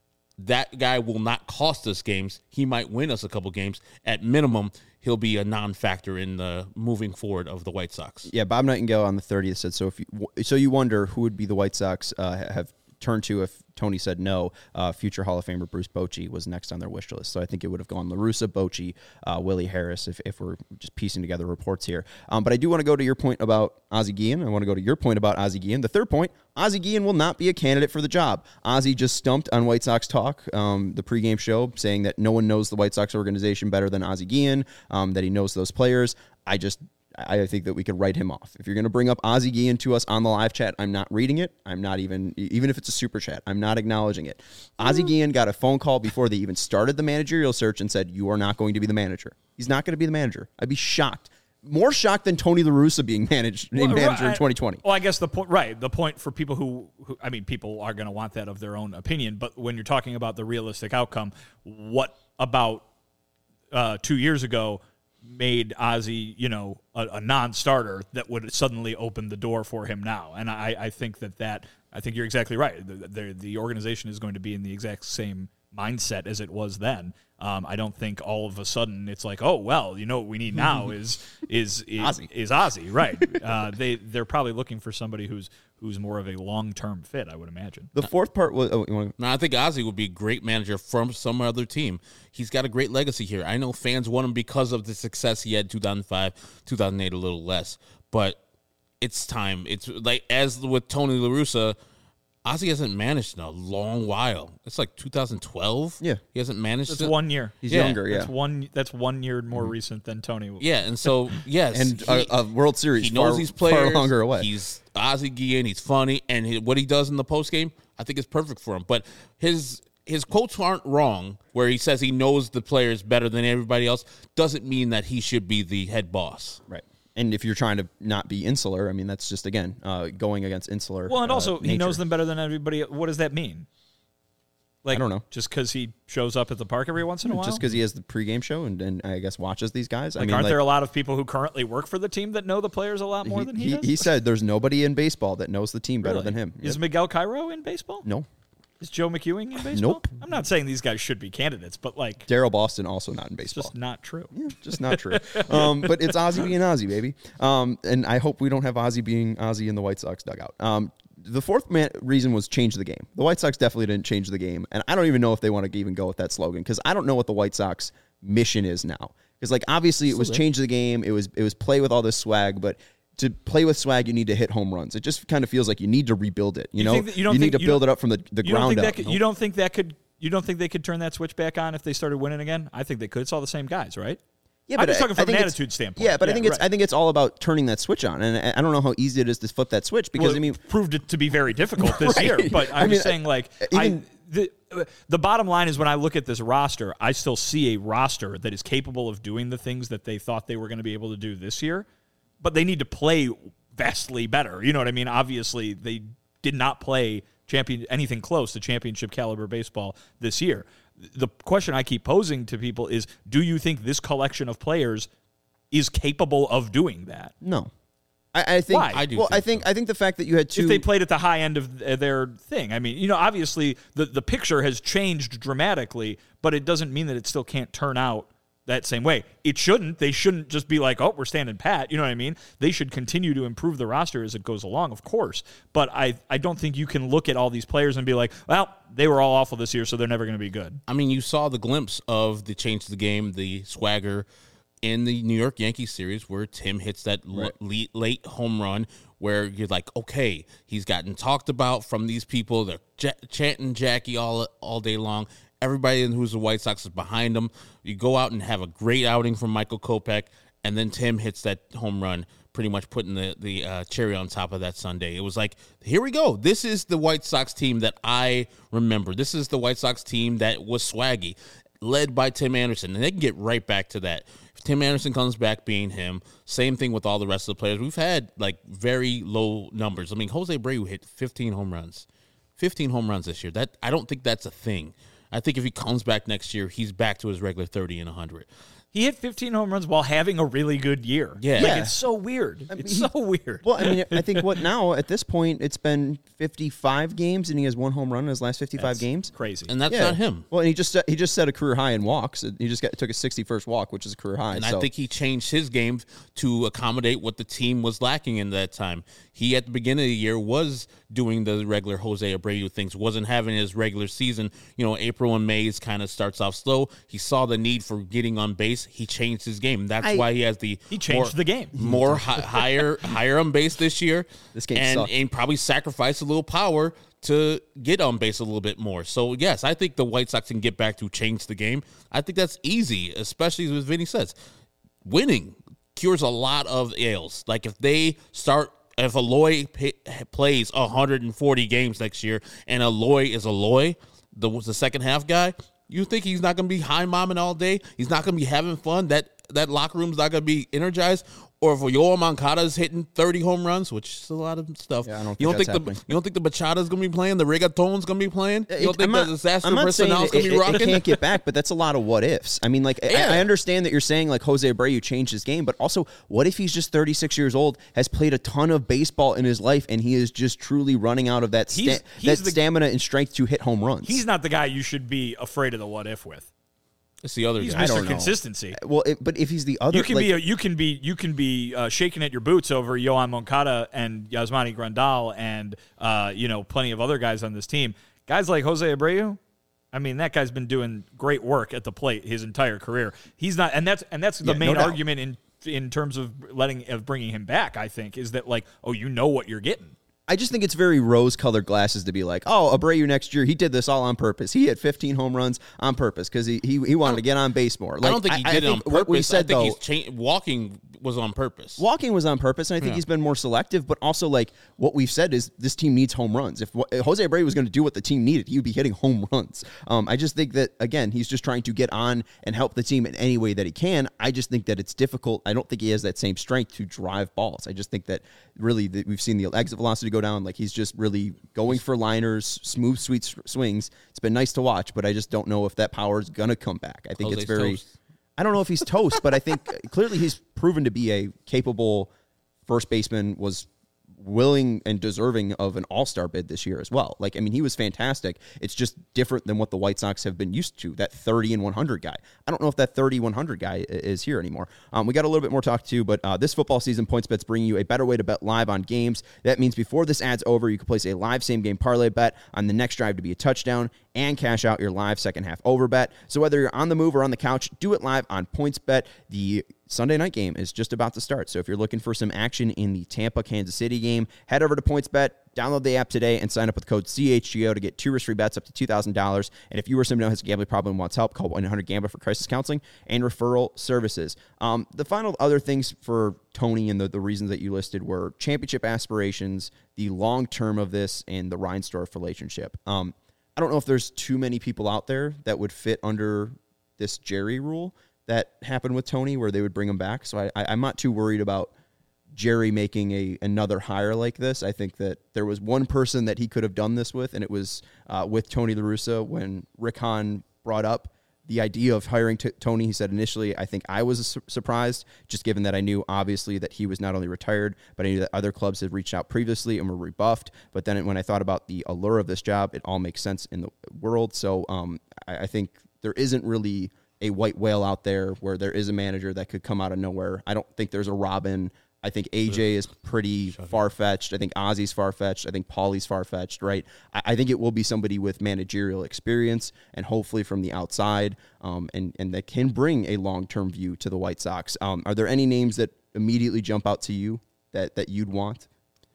that guy will not cost us games. He might win us a couple games. At minimum, he'll be a non-factor in the moving forward of the White Sox. Yeah, Bob Nightingale on the 30th said, so you wonder who would be the White Sox have turned to if Tony said no. Future Hall of Famer Bruce Bochy was next on their wish list. So I think it would have gone La Russa, Bochy, Willie Harris, if we're just piecing together reports here. But I do want to go to your point about Ozzie Guillen. I want to go to your point about Ozzie Guillen. The third point, Ozzie Guillen will not be a candidate for the job. Ozzie just stumped on White Sox Talk, the pregame show, saying that no one knows the White Sox organization better than Ozzie Guillen, that he knows those players. I think that we could write him off. If you're going to bring up Ozzie Guillen to us on the live chat, I'm not reading it. I'm not even if it's a super chat, I'm not acknowledging it. Ozzie Guillen got a phone call before they even started the managerial search and said, you are not going to be the manager. He's not going to be the manager. I'd be shocked. More shocked than Tony La Russa being named manager in 2020. Well, I guess the point for people who I mean, people are going to want that of their own opinion, but when you're talking about the realistic outcome, what about 2 years ago made Ozzie, a non-starter that would suddenly open the door for him now? And I think I think you're exactly right. The organization is going to be in the exact same mindset as it was then. I don't think all of a sudden it's like, oh, well, what we need now is Ozzie, right? They're probably looking for somebody who's more of a long-term fit, I would imagine. The fourth part was... I think Ozzie would be a great manager from some other team. He's got a great legacy here. I know fans want him because of the success he had in 2005, 2008, a little less. But it's time. It's like, as with Tony La Russa, Ozzie hasn't managed in a long while. It's like 2012. Yeah. He hasn't managed. It's 1 year. He's Yeah. younger, yeah. That's 1 year more recent than Tony. Yeah, and so, yes. And a World Series he knows far, these players. far longer away. He's Ozzie Guillen. He's funny. And what he does in the postgame, I think is perfect for him. But his quotes aren't wrong where he says he knows the players better than everybody else. Doesn't mean that he should be the head boss. Right. And if you're trying to not be insular, I mean, that's just, again, going against insular. Well, and also he nature. knows them better than everybody. What does that mean? Like, I don't know. Just because he shows up at the park every once in a while? Just because he has the pregame show and I guess watches these guys. Like, aren't there a lot of people who currently work for the team that know the players a lot more than he does? He said there's nobody in baseball that knows the team better Really? than him. Is Yep. Miguel Cairo in baseball? No. Is Joe McEwing in baseball? Nope. I'm not saying these guys should be candidates, but like, Daryl Boston also not in it's baseball. just not true. Yeah, just not true. But it's Ozzie being Ozzie, baby. And I hope we don't have Ozzie being Ozzie in the White Sox dugout. The fourth reason was change the game. The White Sox definitely didn't change the game. And I don't even know if they want to even go with that slogan because I don't know what the White Sox mission is now. Because, like, obviously it was change the game. It was play with all this swag. But to play with swag, you need to hit home runs. It just kind of feels like you need to rebuild it. You need to build it up from the ground up. You don't think they could turn that switch back on if they started winning again? I think they could. It's all the same guys, right? Yeah, I'm just talking I from an think it's- attitude standpoint. Yeah, but I think right. it's all about turning that switch on, and I don't know how easy it is to flip that switch because Well, I mean, it proved it to be very difficult this Right. year. But I'm I mean, just saying, like, the bottom line is when I look at this roster, I still see a roster that is capable of doing the things that they thought they were going to be able to do this year, but they need to play vastly better. You know what I mean? Obviously, they did not play anything close to championship caliber baseball this year. The question I keep posing to people is, do you think this collection of players is capable of doing that? no. I think Why? I do Well, think I think the fact that you had two. If they played at the high end of their thing. I mean, obviously the picture has changed dramatically, but it doesn't mean that it still can't turn out that same way. It shouldn't. They shouldn't just be like, oh, we're standing pat. You know what I mean? They should continue to improve the roster as it goes along, of course. But I don't think you can look at all these players and be like, well, they were all awful this year, so they're never going to be good. I mean, you saw the glimpse of the change of the game, the swagger in the New York Yankees series where Tim hits that late home run where you're like, okay, he's gotten talked about from these people. They're chanting Jackie all day long. Everybody who's the White Sox is behind him. You go out and have a great outing from Michael Kopech, and then Tim hits that home run, pretty much putting the cherry on top of that Sunday. It was like, here we go. This is the White Sox team that I remember. This is the White Sox team that was swaggy, led by Tim Anderson, and they can get right back to that. If Tim Anderson comes back being him, same thing with all the rest of the players. We've had like very low numbers. I mean, Jose Abreu hit 15 home runs. 15 home runs this year. That I don't think that's a thing. I think if he comes back next year, he's back to his regular 30 and 100. He hit 15 home runs while having a really good year. Yeah. Like, Yeah. it's so weird. It's so weird. Well, I mean, I think now at this point it's been 55 games and he has one home run in his last 55 That's games. crazy. And that's not him. Well, and he just set a career high in walks. He just took his 61st walk, which is a career high. And I think he changed his game to accommodate what the team was lacking in that time. He, at the beginning of the year, was doing the regular Jose Abreu things, wasn't having his regular season. April and May kind of starts off slow. He saw the need for getting on base. He changed his game. That's why he has he changed the game. More higher on base this year. This game sucked. And probably sacrificed a little power to get on base a little bit more. So, yes, I think the White Sox can get back to change the game. I think that's easy, especially as Vinny says. Winning cures a lot of ails. Like if Eloy plays 140 games next year and Eloy is Eloy, the second half guy, you think he's not going to be high-momming all day? He's not going to be having fun? That locker room's not going to be energized? Or if Yoel Moncada's hitting 30 home runs, which is a lot of stuff. Yeah, I don't you think don't that's think you don't think the Bachata's going to be playing? The Reggaeton's going to be playing? You don't think the Disaster I'm not saying Personnel's going to be rocking? It can't get back, but that's a lot of what ifs. I mean, like, Yeah. I understand that you're saying, like, Jose Abreu changed his game, but also, what if he's just 36 years old, has played a ton of baseball in his life, and he is just truly running out of that stamina and strength to hit home runs? He's not the guy you should be afraid of the what if with. It's the other He's guy. Mr. Consistency. Well, but if he's the other, You can be shaking at your boots over Yoan Moncada and Yasmani Grandal and plenty of other guys on this team. Guys like Jose Abreu, I mean, that guy's been doing great work at the plate his entire career. He's not, and that's the main argument in terms of bringing him back. I think is that, like, oh, you know what you're getting. I just think it's very rose-colored glasses to be like, oh, Abreu next year, he did this all on purpose. He had 15 home runs on purpose because he wanted to get on base more. Like, I don't think he did it on purpose. What we said, I think walking was on purpose. Walking was on purpose, and I think he's been more selective. But also, like, what we've said is this team needs home runs. If Jose Abreu was going to do what the team needed, he would be hitting home runs. I just think that, again, he's just trying to get on and help the team in any way that he can. I just think that it's difficult. I don't think he has that same strength to drive balls. I just think that really we've seen the exit velocity go down. Like, he's just really going for liners, smooth, sweet swings. It's been nice to watch, but I just don't know if that power is going to come back. I think Jose's it's very... toast. I don't know if he's toast, but I think clearly he's proven to be a capable first baseman, was willing and deserving of an all-star bid this year as well. Like, I mean, he was fantastic. It's just different than what the White Sox have been used to, that 30 and 100 guy. I don't know if that 30-100 guy is here anymore. We got a little bit more to talk to, but this football season, PointsBet's bringing you a better way to bet live on games. That means before this ad's over, you can place a live same-game parlay bet on the next drive to be a touchdown and cash out your live second-half over bet. So whether you're on the move or on the couch, do it live on PointsBet. The Sunday night game is just about to start. So if you're looking for some action in the Tampa-Kansas City game, head over to PointsBet, download the app today, and sign up with code CHGO to get 2 risk-free bets up to $2,000. And if you or somebody who has a gambling problem and wants help, call 1-800-GAMBLER for crisis counseling and referral services. The final other things for Tony and the reasons that you listed were championship aspirations, the long term of this, and the Reinsdorf relationship. I don't know if there's too many people out there that would fit under this Jerry rule that happened with Tony where they would bring him back. So I'm not too worried about Jerry making another hire like this. I think that there was one person that he could have done this with, and it was with Tony La Russa when Rick Hahn brought up the idea of hiring Tony. He said initially, I think I was surprised, just given that I knew obviously that he was not only retired, but I knew that other clubs had reached out previously and were rebuffed. But then when I thought about the allure of this job, it all makes sense in the world. So I think there isn't really a white whale out there where there is a manager that could come out of nowhere. I don't think there's a Robin. I think AJ is pretty far-fetched. I think Ozzy's far-fetched. I think Paulie's far-fetched, right? I think it will be somebody with managerial experience and hopefully from the outside and that can bring a long-term view to the White Sox. Are there any names that immediately jump out to you that you'd want?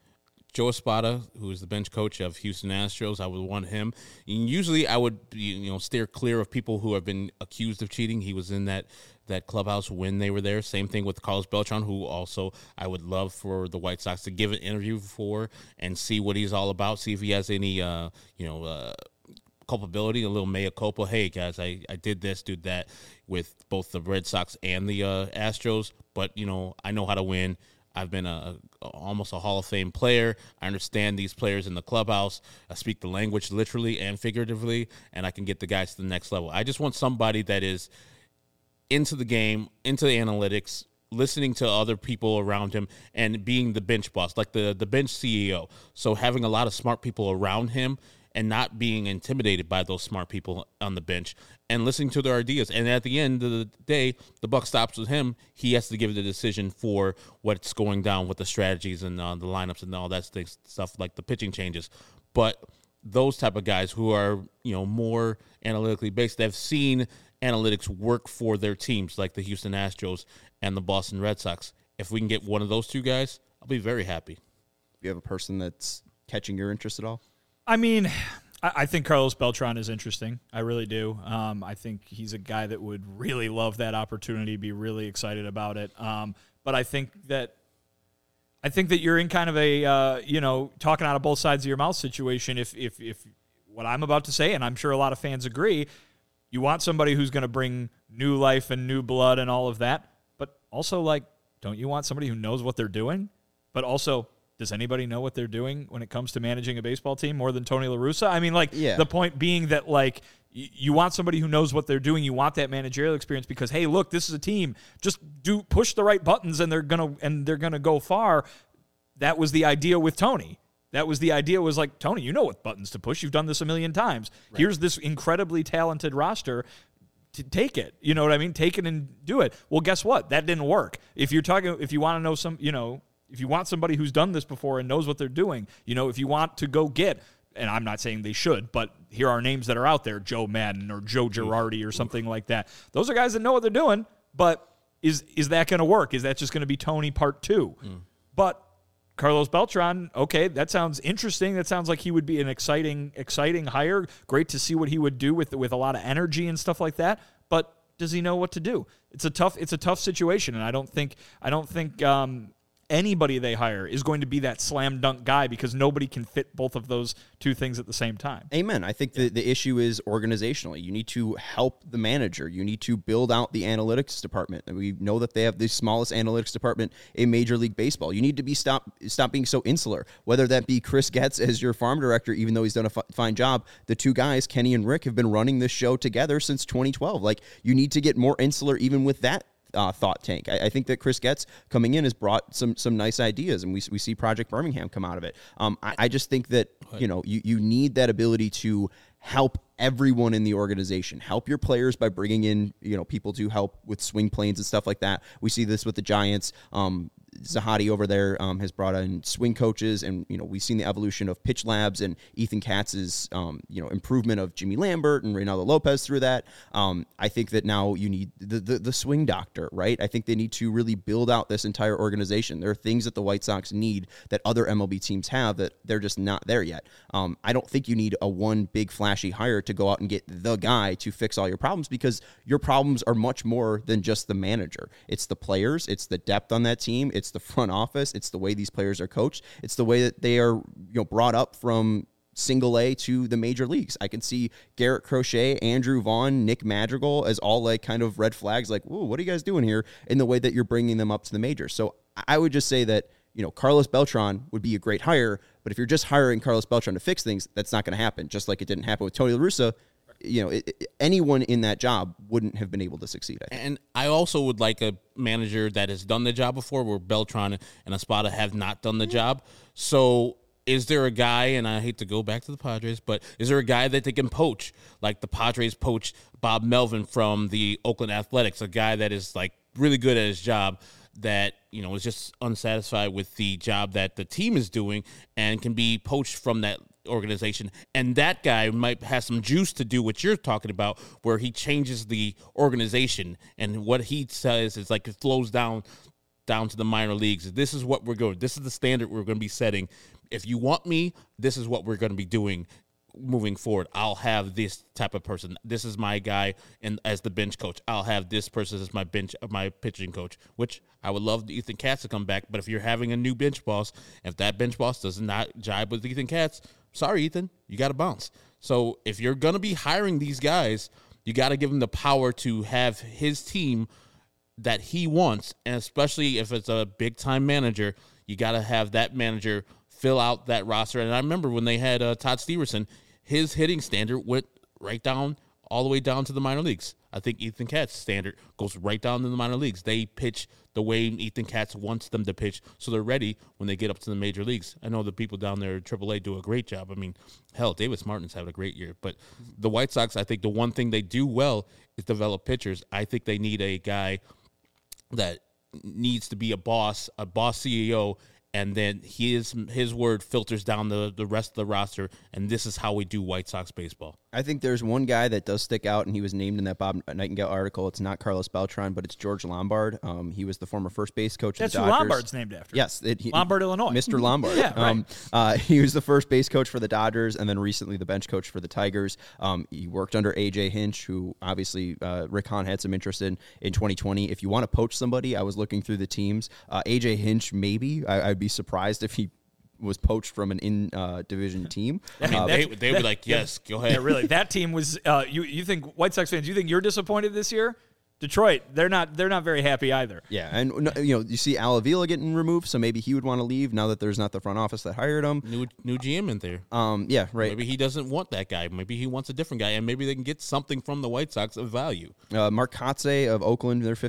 Joe Espada, who is the bench coach of Houston Astros, I would want him. And usually I would steer clear of people who have been accused of cheating. He was in that clubhouse when they were there. Same thing with Carlos Beltran, who also I would love for the White Sox to give an interview for and see what he's all about, see if he has any culpability, a little mea culpa. Hey, guys, I did this, did that with both the Red Sox and the Astros, but, I know how to win. I've been almost a Hall of Fame player. I understand these players in the clubhouse. I speak the language literally and figuratively, and I can get the guys to the next level. I just want somebody that is into the game, into the analytics, listening to other people around him, and being the bench boss, like the bench CEO. So having a lot of smart people around him and not being intimidated by those smart people on the bench and listening to their ideas. And at the end of the day, the buck stops with him. He has to give the decision for what's going down with the strategies and the lineups and all that stuff, like the pitching changes. But those type of guys who are, more analytically based, they've seen analytics work for their teams, like the Houston Astros and the Boston Red Sox. If we can get one of those two guys, I'll be very happy. You have a person that's catching your interest at all? I mean, I think Carlos Beltran is interesting. I really do. I think he's a guy that would really love that opportunity, be really excited about it. But I think that you're in kind of a talking out of both sides of your mouth situation. If what I'm about to say, and I'm sure a lot of fans agree, you want somebody who's going to bring new life and new blood and all of that, but also don't you want somebody who knows what they're doing? But also, does anybody know what they're doing when it comes to managing a baseball team more than Tony La Russa? I mean, The point being that, you want somebody who knows what they're doing. You want that managerial experience because, hey, look, this is a team. Just push the right buttons, and they're gonna go far. That was the idea with Tony. That was the idea. Was like, Tony, you know what buttons to push. You've done this a million times. Right. Here's this incredibly talented roster. To take it, you know what I mean? Take it and do it. Well, guess what? That didn't work. If you want to know if you want somebody who's done this before and knows what they're doing, if you want to go get, and I'm not saying they should, but here are names that are out there, Joe Madden or Joe Girardi or something like that. Those are guys that know what they're doing, but is that going to work? Is that just going to be Tony part 2? But Carlos Beltran, okay, that sounds interesting. That sounds like he would be an exciting hire. Great to see what he would do with a lot of energy and stuff like that. But does he know what to do? It's a tough situation, and I don't think anybody they hire is going to be that slam dunk guy, because nobody can fit both of those two things at the same time. Amen. I think the issue is organizationally. You need to help the manager. You need to build out the analytics department. And we know that they have the smallest analytics department in Major League Baseball. You need to stop being so insular, whether that be Chris Getz as your farm director, even though he's done a fine job. The two guys, Kenny and Rick, have been running this show together since 2012. Like, you need to get more insular even with that thought tank. I think that Chris Getz coming in has brought some nice ideas, and we see Project Birmingham come out of it. I just think that you need that ability to help everyone in the organization. Help your players by bringing in people to help with swing planes and stuff like that. We see this with the Giants. Zahadi over there has brought in swing coaches, and we've seen the evolution of Pitch Labs and Ethan Katz's improvement of Jimmy Lambert and Reynaldo Lopez through that. I think that now you need the swing doctor, right? I think they need to really build out this entire organization. There are things that the White Sox need that other MLB teams have that they're just not there yet. I don't think you need a one big flashy hire to go out and get the guy to fix all your problems, because your problems are much more than just the manager. It's the players, it's the depth on that team, it's the front office, it's the way these players are coached, it's the way that they are brought up from single A to the major leagues. I can see Garrett Crochet, Andrew Vaughn, Nick Madrigal as all like kind of red flags, like, "Ooh, what are you guys doing here?" in the way that you're bringing them up to the majors. So I would just say that Carlos Beltran would be a great hire, but if you're just hiring Carlos Beltran to fix things, that's not going to happen. Just like it didn't happen with Tony La Russa. Anyone in that job wouldn't have been able to succeed, I think. And I also would like a manager that has done the job before, where Beltran and Espada have not done the job. So is there a guy, and I hate to go back to the Padres, but is there a guy that they can poach, like the Padres poached Bob Melvin from the Oakland Athletics, a guy that is like really good at his job, that is just unsatisfied with the job that the team is doing and can be poached from that organization, and that guy might have some juice to do what you're talking about, where he changes the organization, and what he says is like it flows down to the minor leagues. This is what we're going. This is the standard we're going to be setting. If you want me, this is what we're going to be doing moving forward. I'll have this type of person. This is my guy, and as the bench coach, I'll have this person as my pitching coach. Which I would love Ethan Katz to come back, but if you're having a new bench boss, if that bench boss does not jibe with Ethan Katz, sorry, Ethan, you got to bounce. So if you're going to be hiring these guys, you got to give him the power to have his team that he wants, and especially if it's a big-time manager, you got to have that manager fill out that roster. And I remember when they had Todd Steverson, his hitting standard went right down, all the way down to the minor leagues. I think Ethan Katz's standard goes right down to the minor leagues. They pitch the way Ethan Katz wants them to pitch, so they're ready when they get up to the major leagues. I know the people down there at AAA do a great job. I mean, hell, Davis Martin's having a great year. But the White Sox, I think the one thing they do well is develop pitchers. I think they need a guy that needs to be a boss CEO, and then his word filters down the rest of the roster, and this is how we do White Sox baseball. I think there's one guy that does stick out, and he was named in that Bob Nightingale article. It's not Carlos Beltran, but it's George Lombard. He was the former first base coach of the Dodgers. That's who Lombard's named after. Yes. Lombard, Illinois. Mr. Lombard. Yeah, right. He was the first base coach for the Dodgers, and then recently the bench coach for the Tigers. He worked under A.J. Hinch, who obviously Rick Hahn had some interest in 2020. If you want to poach somebody, I was looking through the teams. A.J. Hinch, maybe. I'd be surprised if he was poached from an in-division team. I mean, they would be like, yes, go ahead. Yeah, really. That team was, you think, White Sox fans, you think you're disappointed this year? Detroit, they're not very happy either. Yeah, and you see Al Avila getting removed, so maybe he would want to leave now that there's not the front office that hired him. New GM in there. Yeah, right. Maybe he doesn't want that guy. Maybe he wants a different guy, and maybe they can get something from the White Sox of value. Mark Kotze of Oakland, they're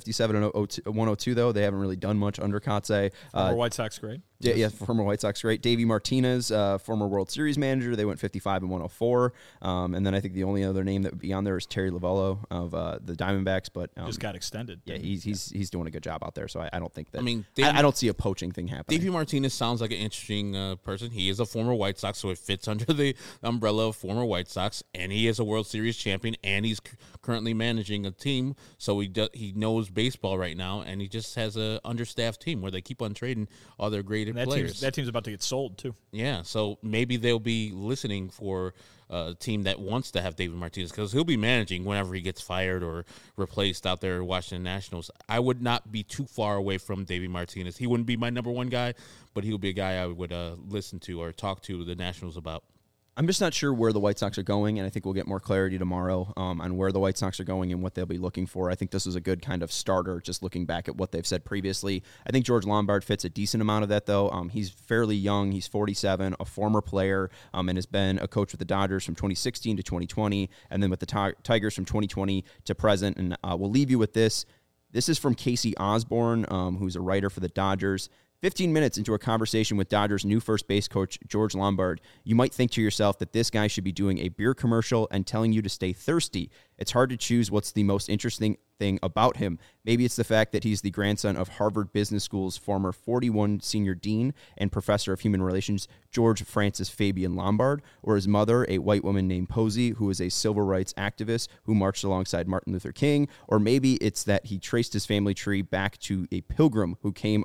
57-102 though. They haven't really done much under Kotze. Former White Sox great. Yeah, former White Sox great. Davey Martinez, former World Series manager. They went 55-104. And then I think the only other name that would be on there is Terry Lavello of the Diamondbacks. But Just got extended. Yeah, he's doing a good job out there. So I don't think that. I mean, I don't see a poaching thing happening. Davey Martinez sounds like an interesting person. He is a former White Sox, so it fits under the umbrella of former White Sox, and he is a World Series champion, and he's currently managing a team, so he knows baseball right now, and he just has a understaffed team where they keep on trading all their great players. That team's about to get sold too. Yeah, so maybe they'll be listening for a team that wants to have David Martinez, because he'll be managing whenever he gets fired or replaced out there at Washington Nationals. I would not be too far away from David Martinez. He wouldn't be my number one guy, but he would be a guy I would listen to or talk to the Nationals about. I'm just not sure where the White Sox are going, and I think we'll get more clarity tomorrow on where the White Sox are going and what they'll be looking for. I think this is a good kind of starter, just looking back at what they've said previously. I think George Lombard fits a decent amount of that, though. He's fairly young. He's 47, a former player, and has been a coach with the Dodgers from 2016 to 2020, and then with the Tigers from 2020 to present. And we'll leave you with this. This is from Casey Osborne, who's a writer for the Dodgers. 15 minutes into a conversation with Dodgers' new first base coach, George Lombard, you might think to yourself that this guy should be doing a beer commercial and telling you to stay thirsty. It's hard to choose what's the most interesting thing about him. Maybe it's the fact that he's the grandson of Harvard Business School's former 41 senior dean and professor of human relations, George Francis Fabian Lombard, or his mother, a white woman named Posey, who is a civil rights activist who marched alongside Martin Luther King, or maybe it's that he traced his family tree back to a pilgrim who came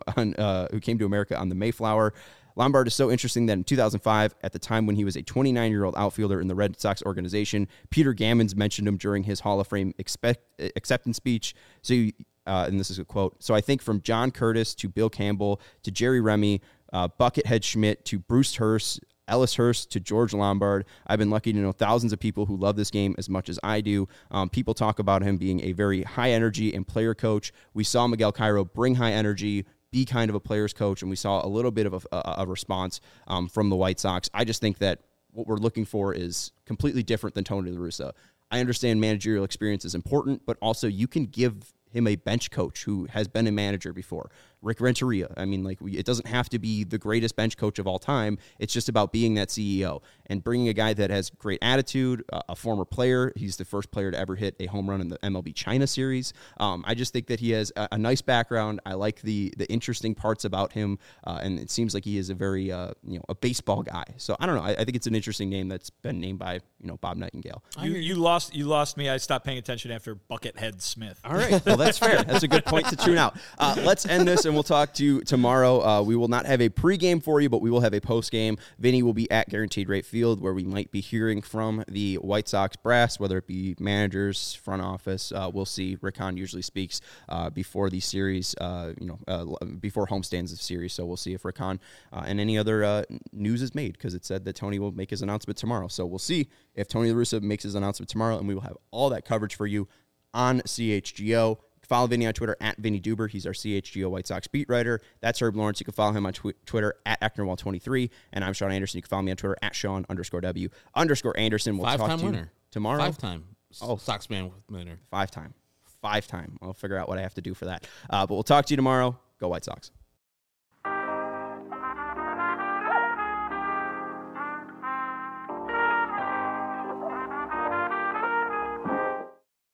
to America on the Mayflower. Lombard is so interesting that in 2005, at the time when he was a 29-year-old outfielder in the Red Sox organization, Peter Gammons mentioned him during his Hall of Fame acceptance speech. So, and this is a quote, "So I think from John Curtis to Bill Campbell to Jerry Remy, Buckethead Schmidt to Bruce Hurst, Ellis Hurst to George Lombard, I've been lucky to know thousands of people who love this game as much as I do. People talk about him being a very high energy and player coach. We saw Miguel Cairo bring high energy, be kind of a player's coach, and we saw a little bit of a response from the White Sox. I just think that what we're looking for is completely different than Tony La Russa. I understand managerial experience is important, but also you can give him a bench coach who has been a manager before. Rick Renteria. I mean, it doesn't have to be the greatest bench coach of all time. It's just about being that CEO and bringing a guy that has great attitude, a former player. He's the first player to ever hit a home run in the MLB China series. I just think that he has a nice background. I like the interesting parts about him, and it seems like he is a very a baseball guy. So I don't know. I think it's an interesting name that's been named by Bob Nightingale. You lost me. I stopped paying attention after Buckethead Smith. All right. Well, that's fair. That's a good point to tune out. Let's end this, and we'll talk to you tomorrow. We will not have a pregame for you, but we will have a postgame. Vinny will be at Guaranteed Rate Field, where we might be hearing from the White Sox brass, whether it be managers, front office. We'll see. Rick Hahn usually speaks before the series, before homestands of series. So we'll see if Rick Hahn and any other news is made, because it said that Tony will make his announcement tomorrow. So we'll see if Tony La Russa makes his announcement tomorrow, and we will have all that coverage for you on CHGO. Follow Vinny on Twitter at Vinny Duber. He's our CHGO White Sox beat writer. That's Herb Lawrence. You can follow him on Twitter at Ecknerwall23. And I'm Sean Anderson. You can follow me on Twitter at Sean_W_Anderson. We'll talk to you winner tomorrow. 5-time Soxman winner. 5-time. I'll figure out what I have to do for that. But we'll talk to you tomorrow. Go White Sox.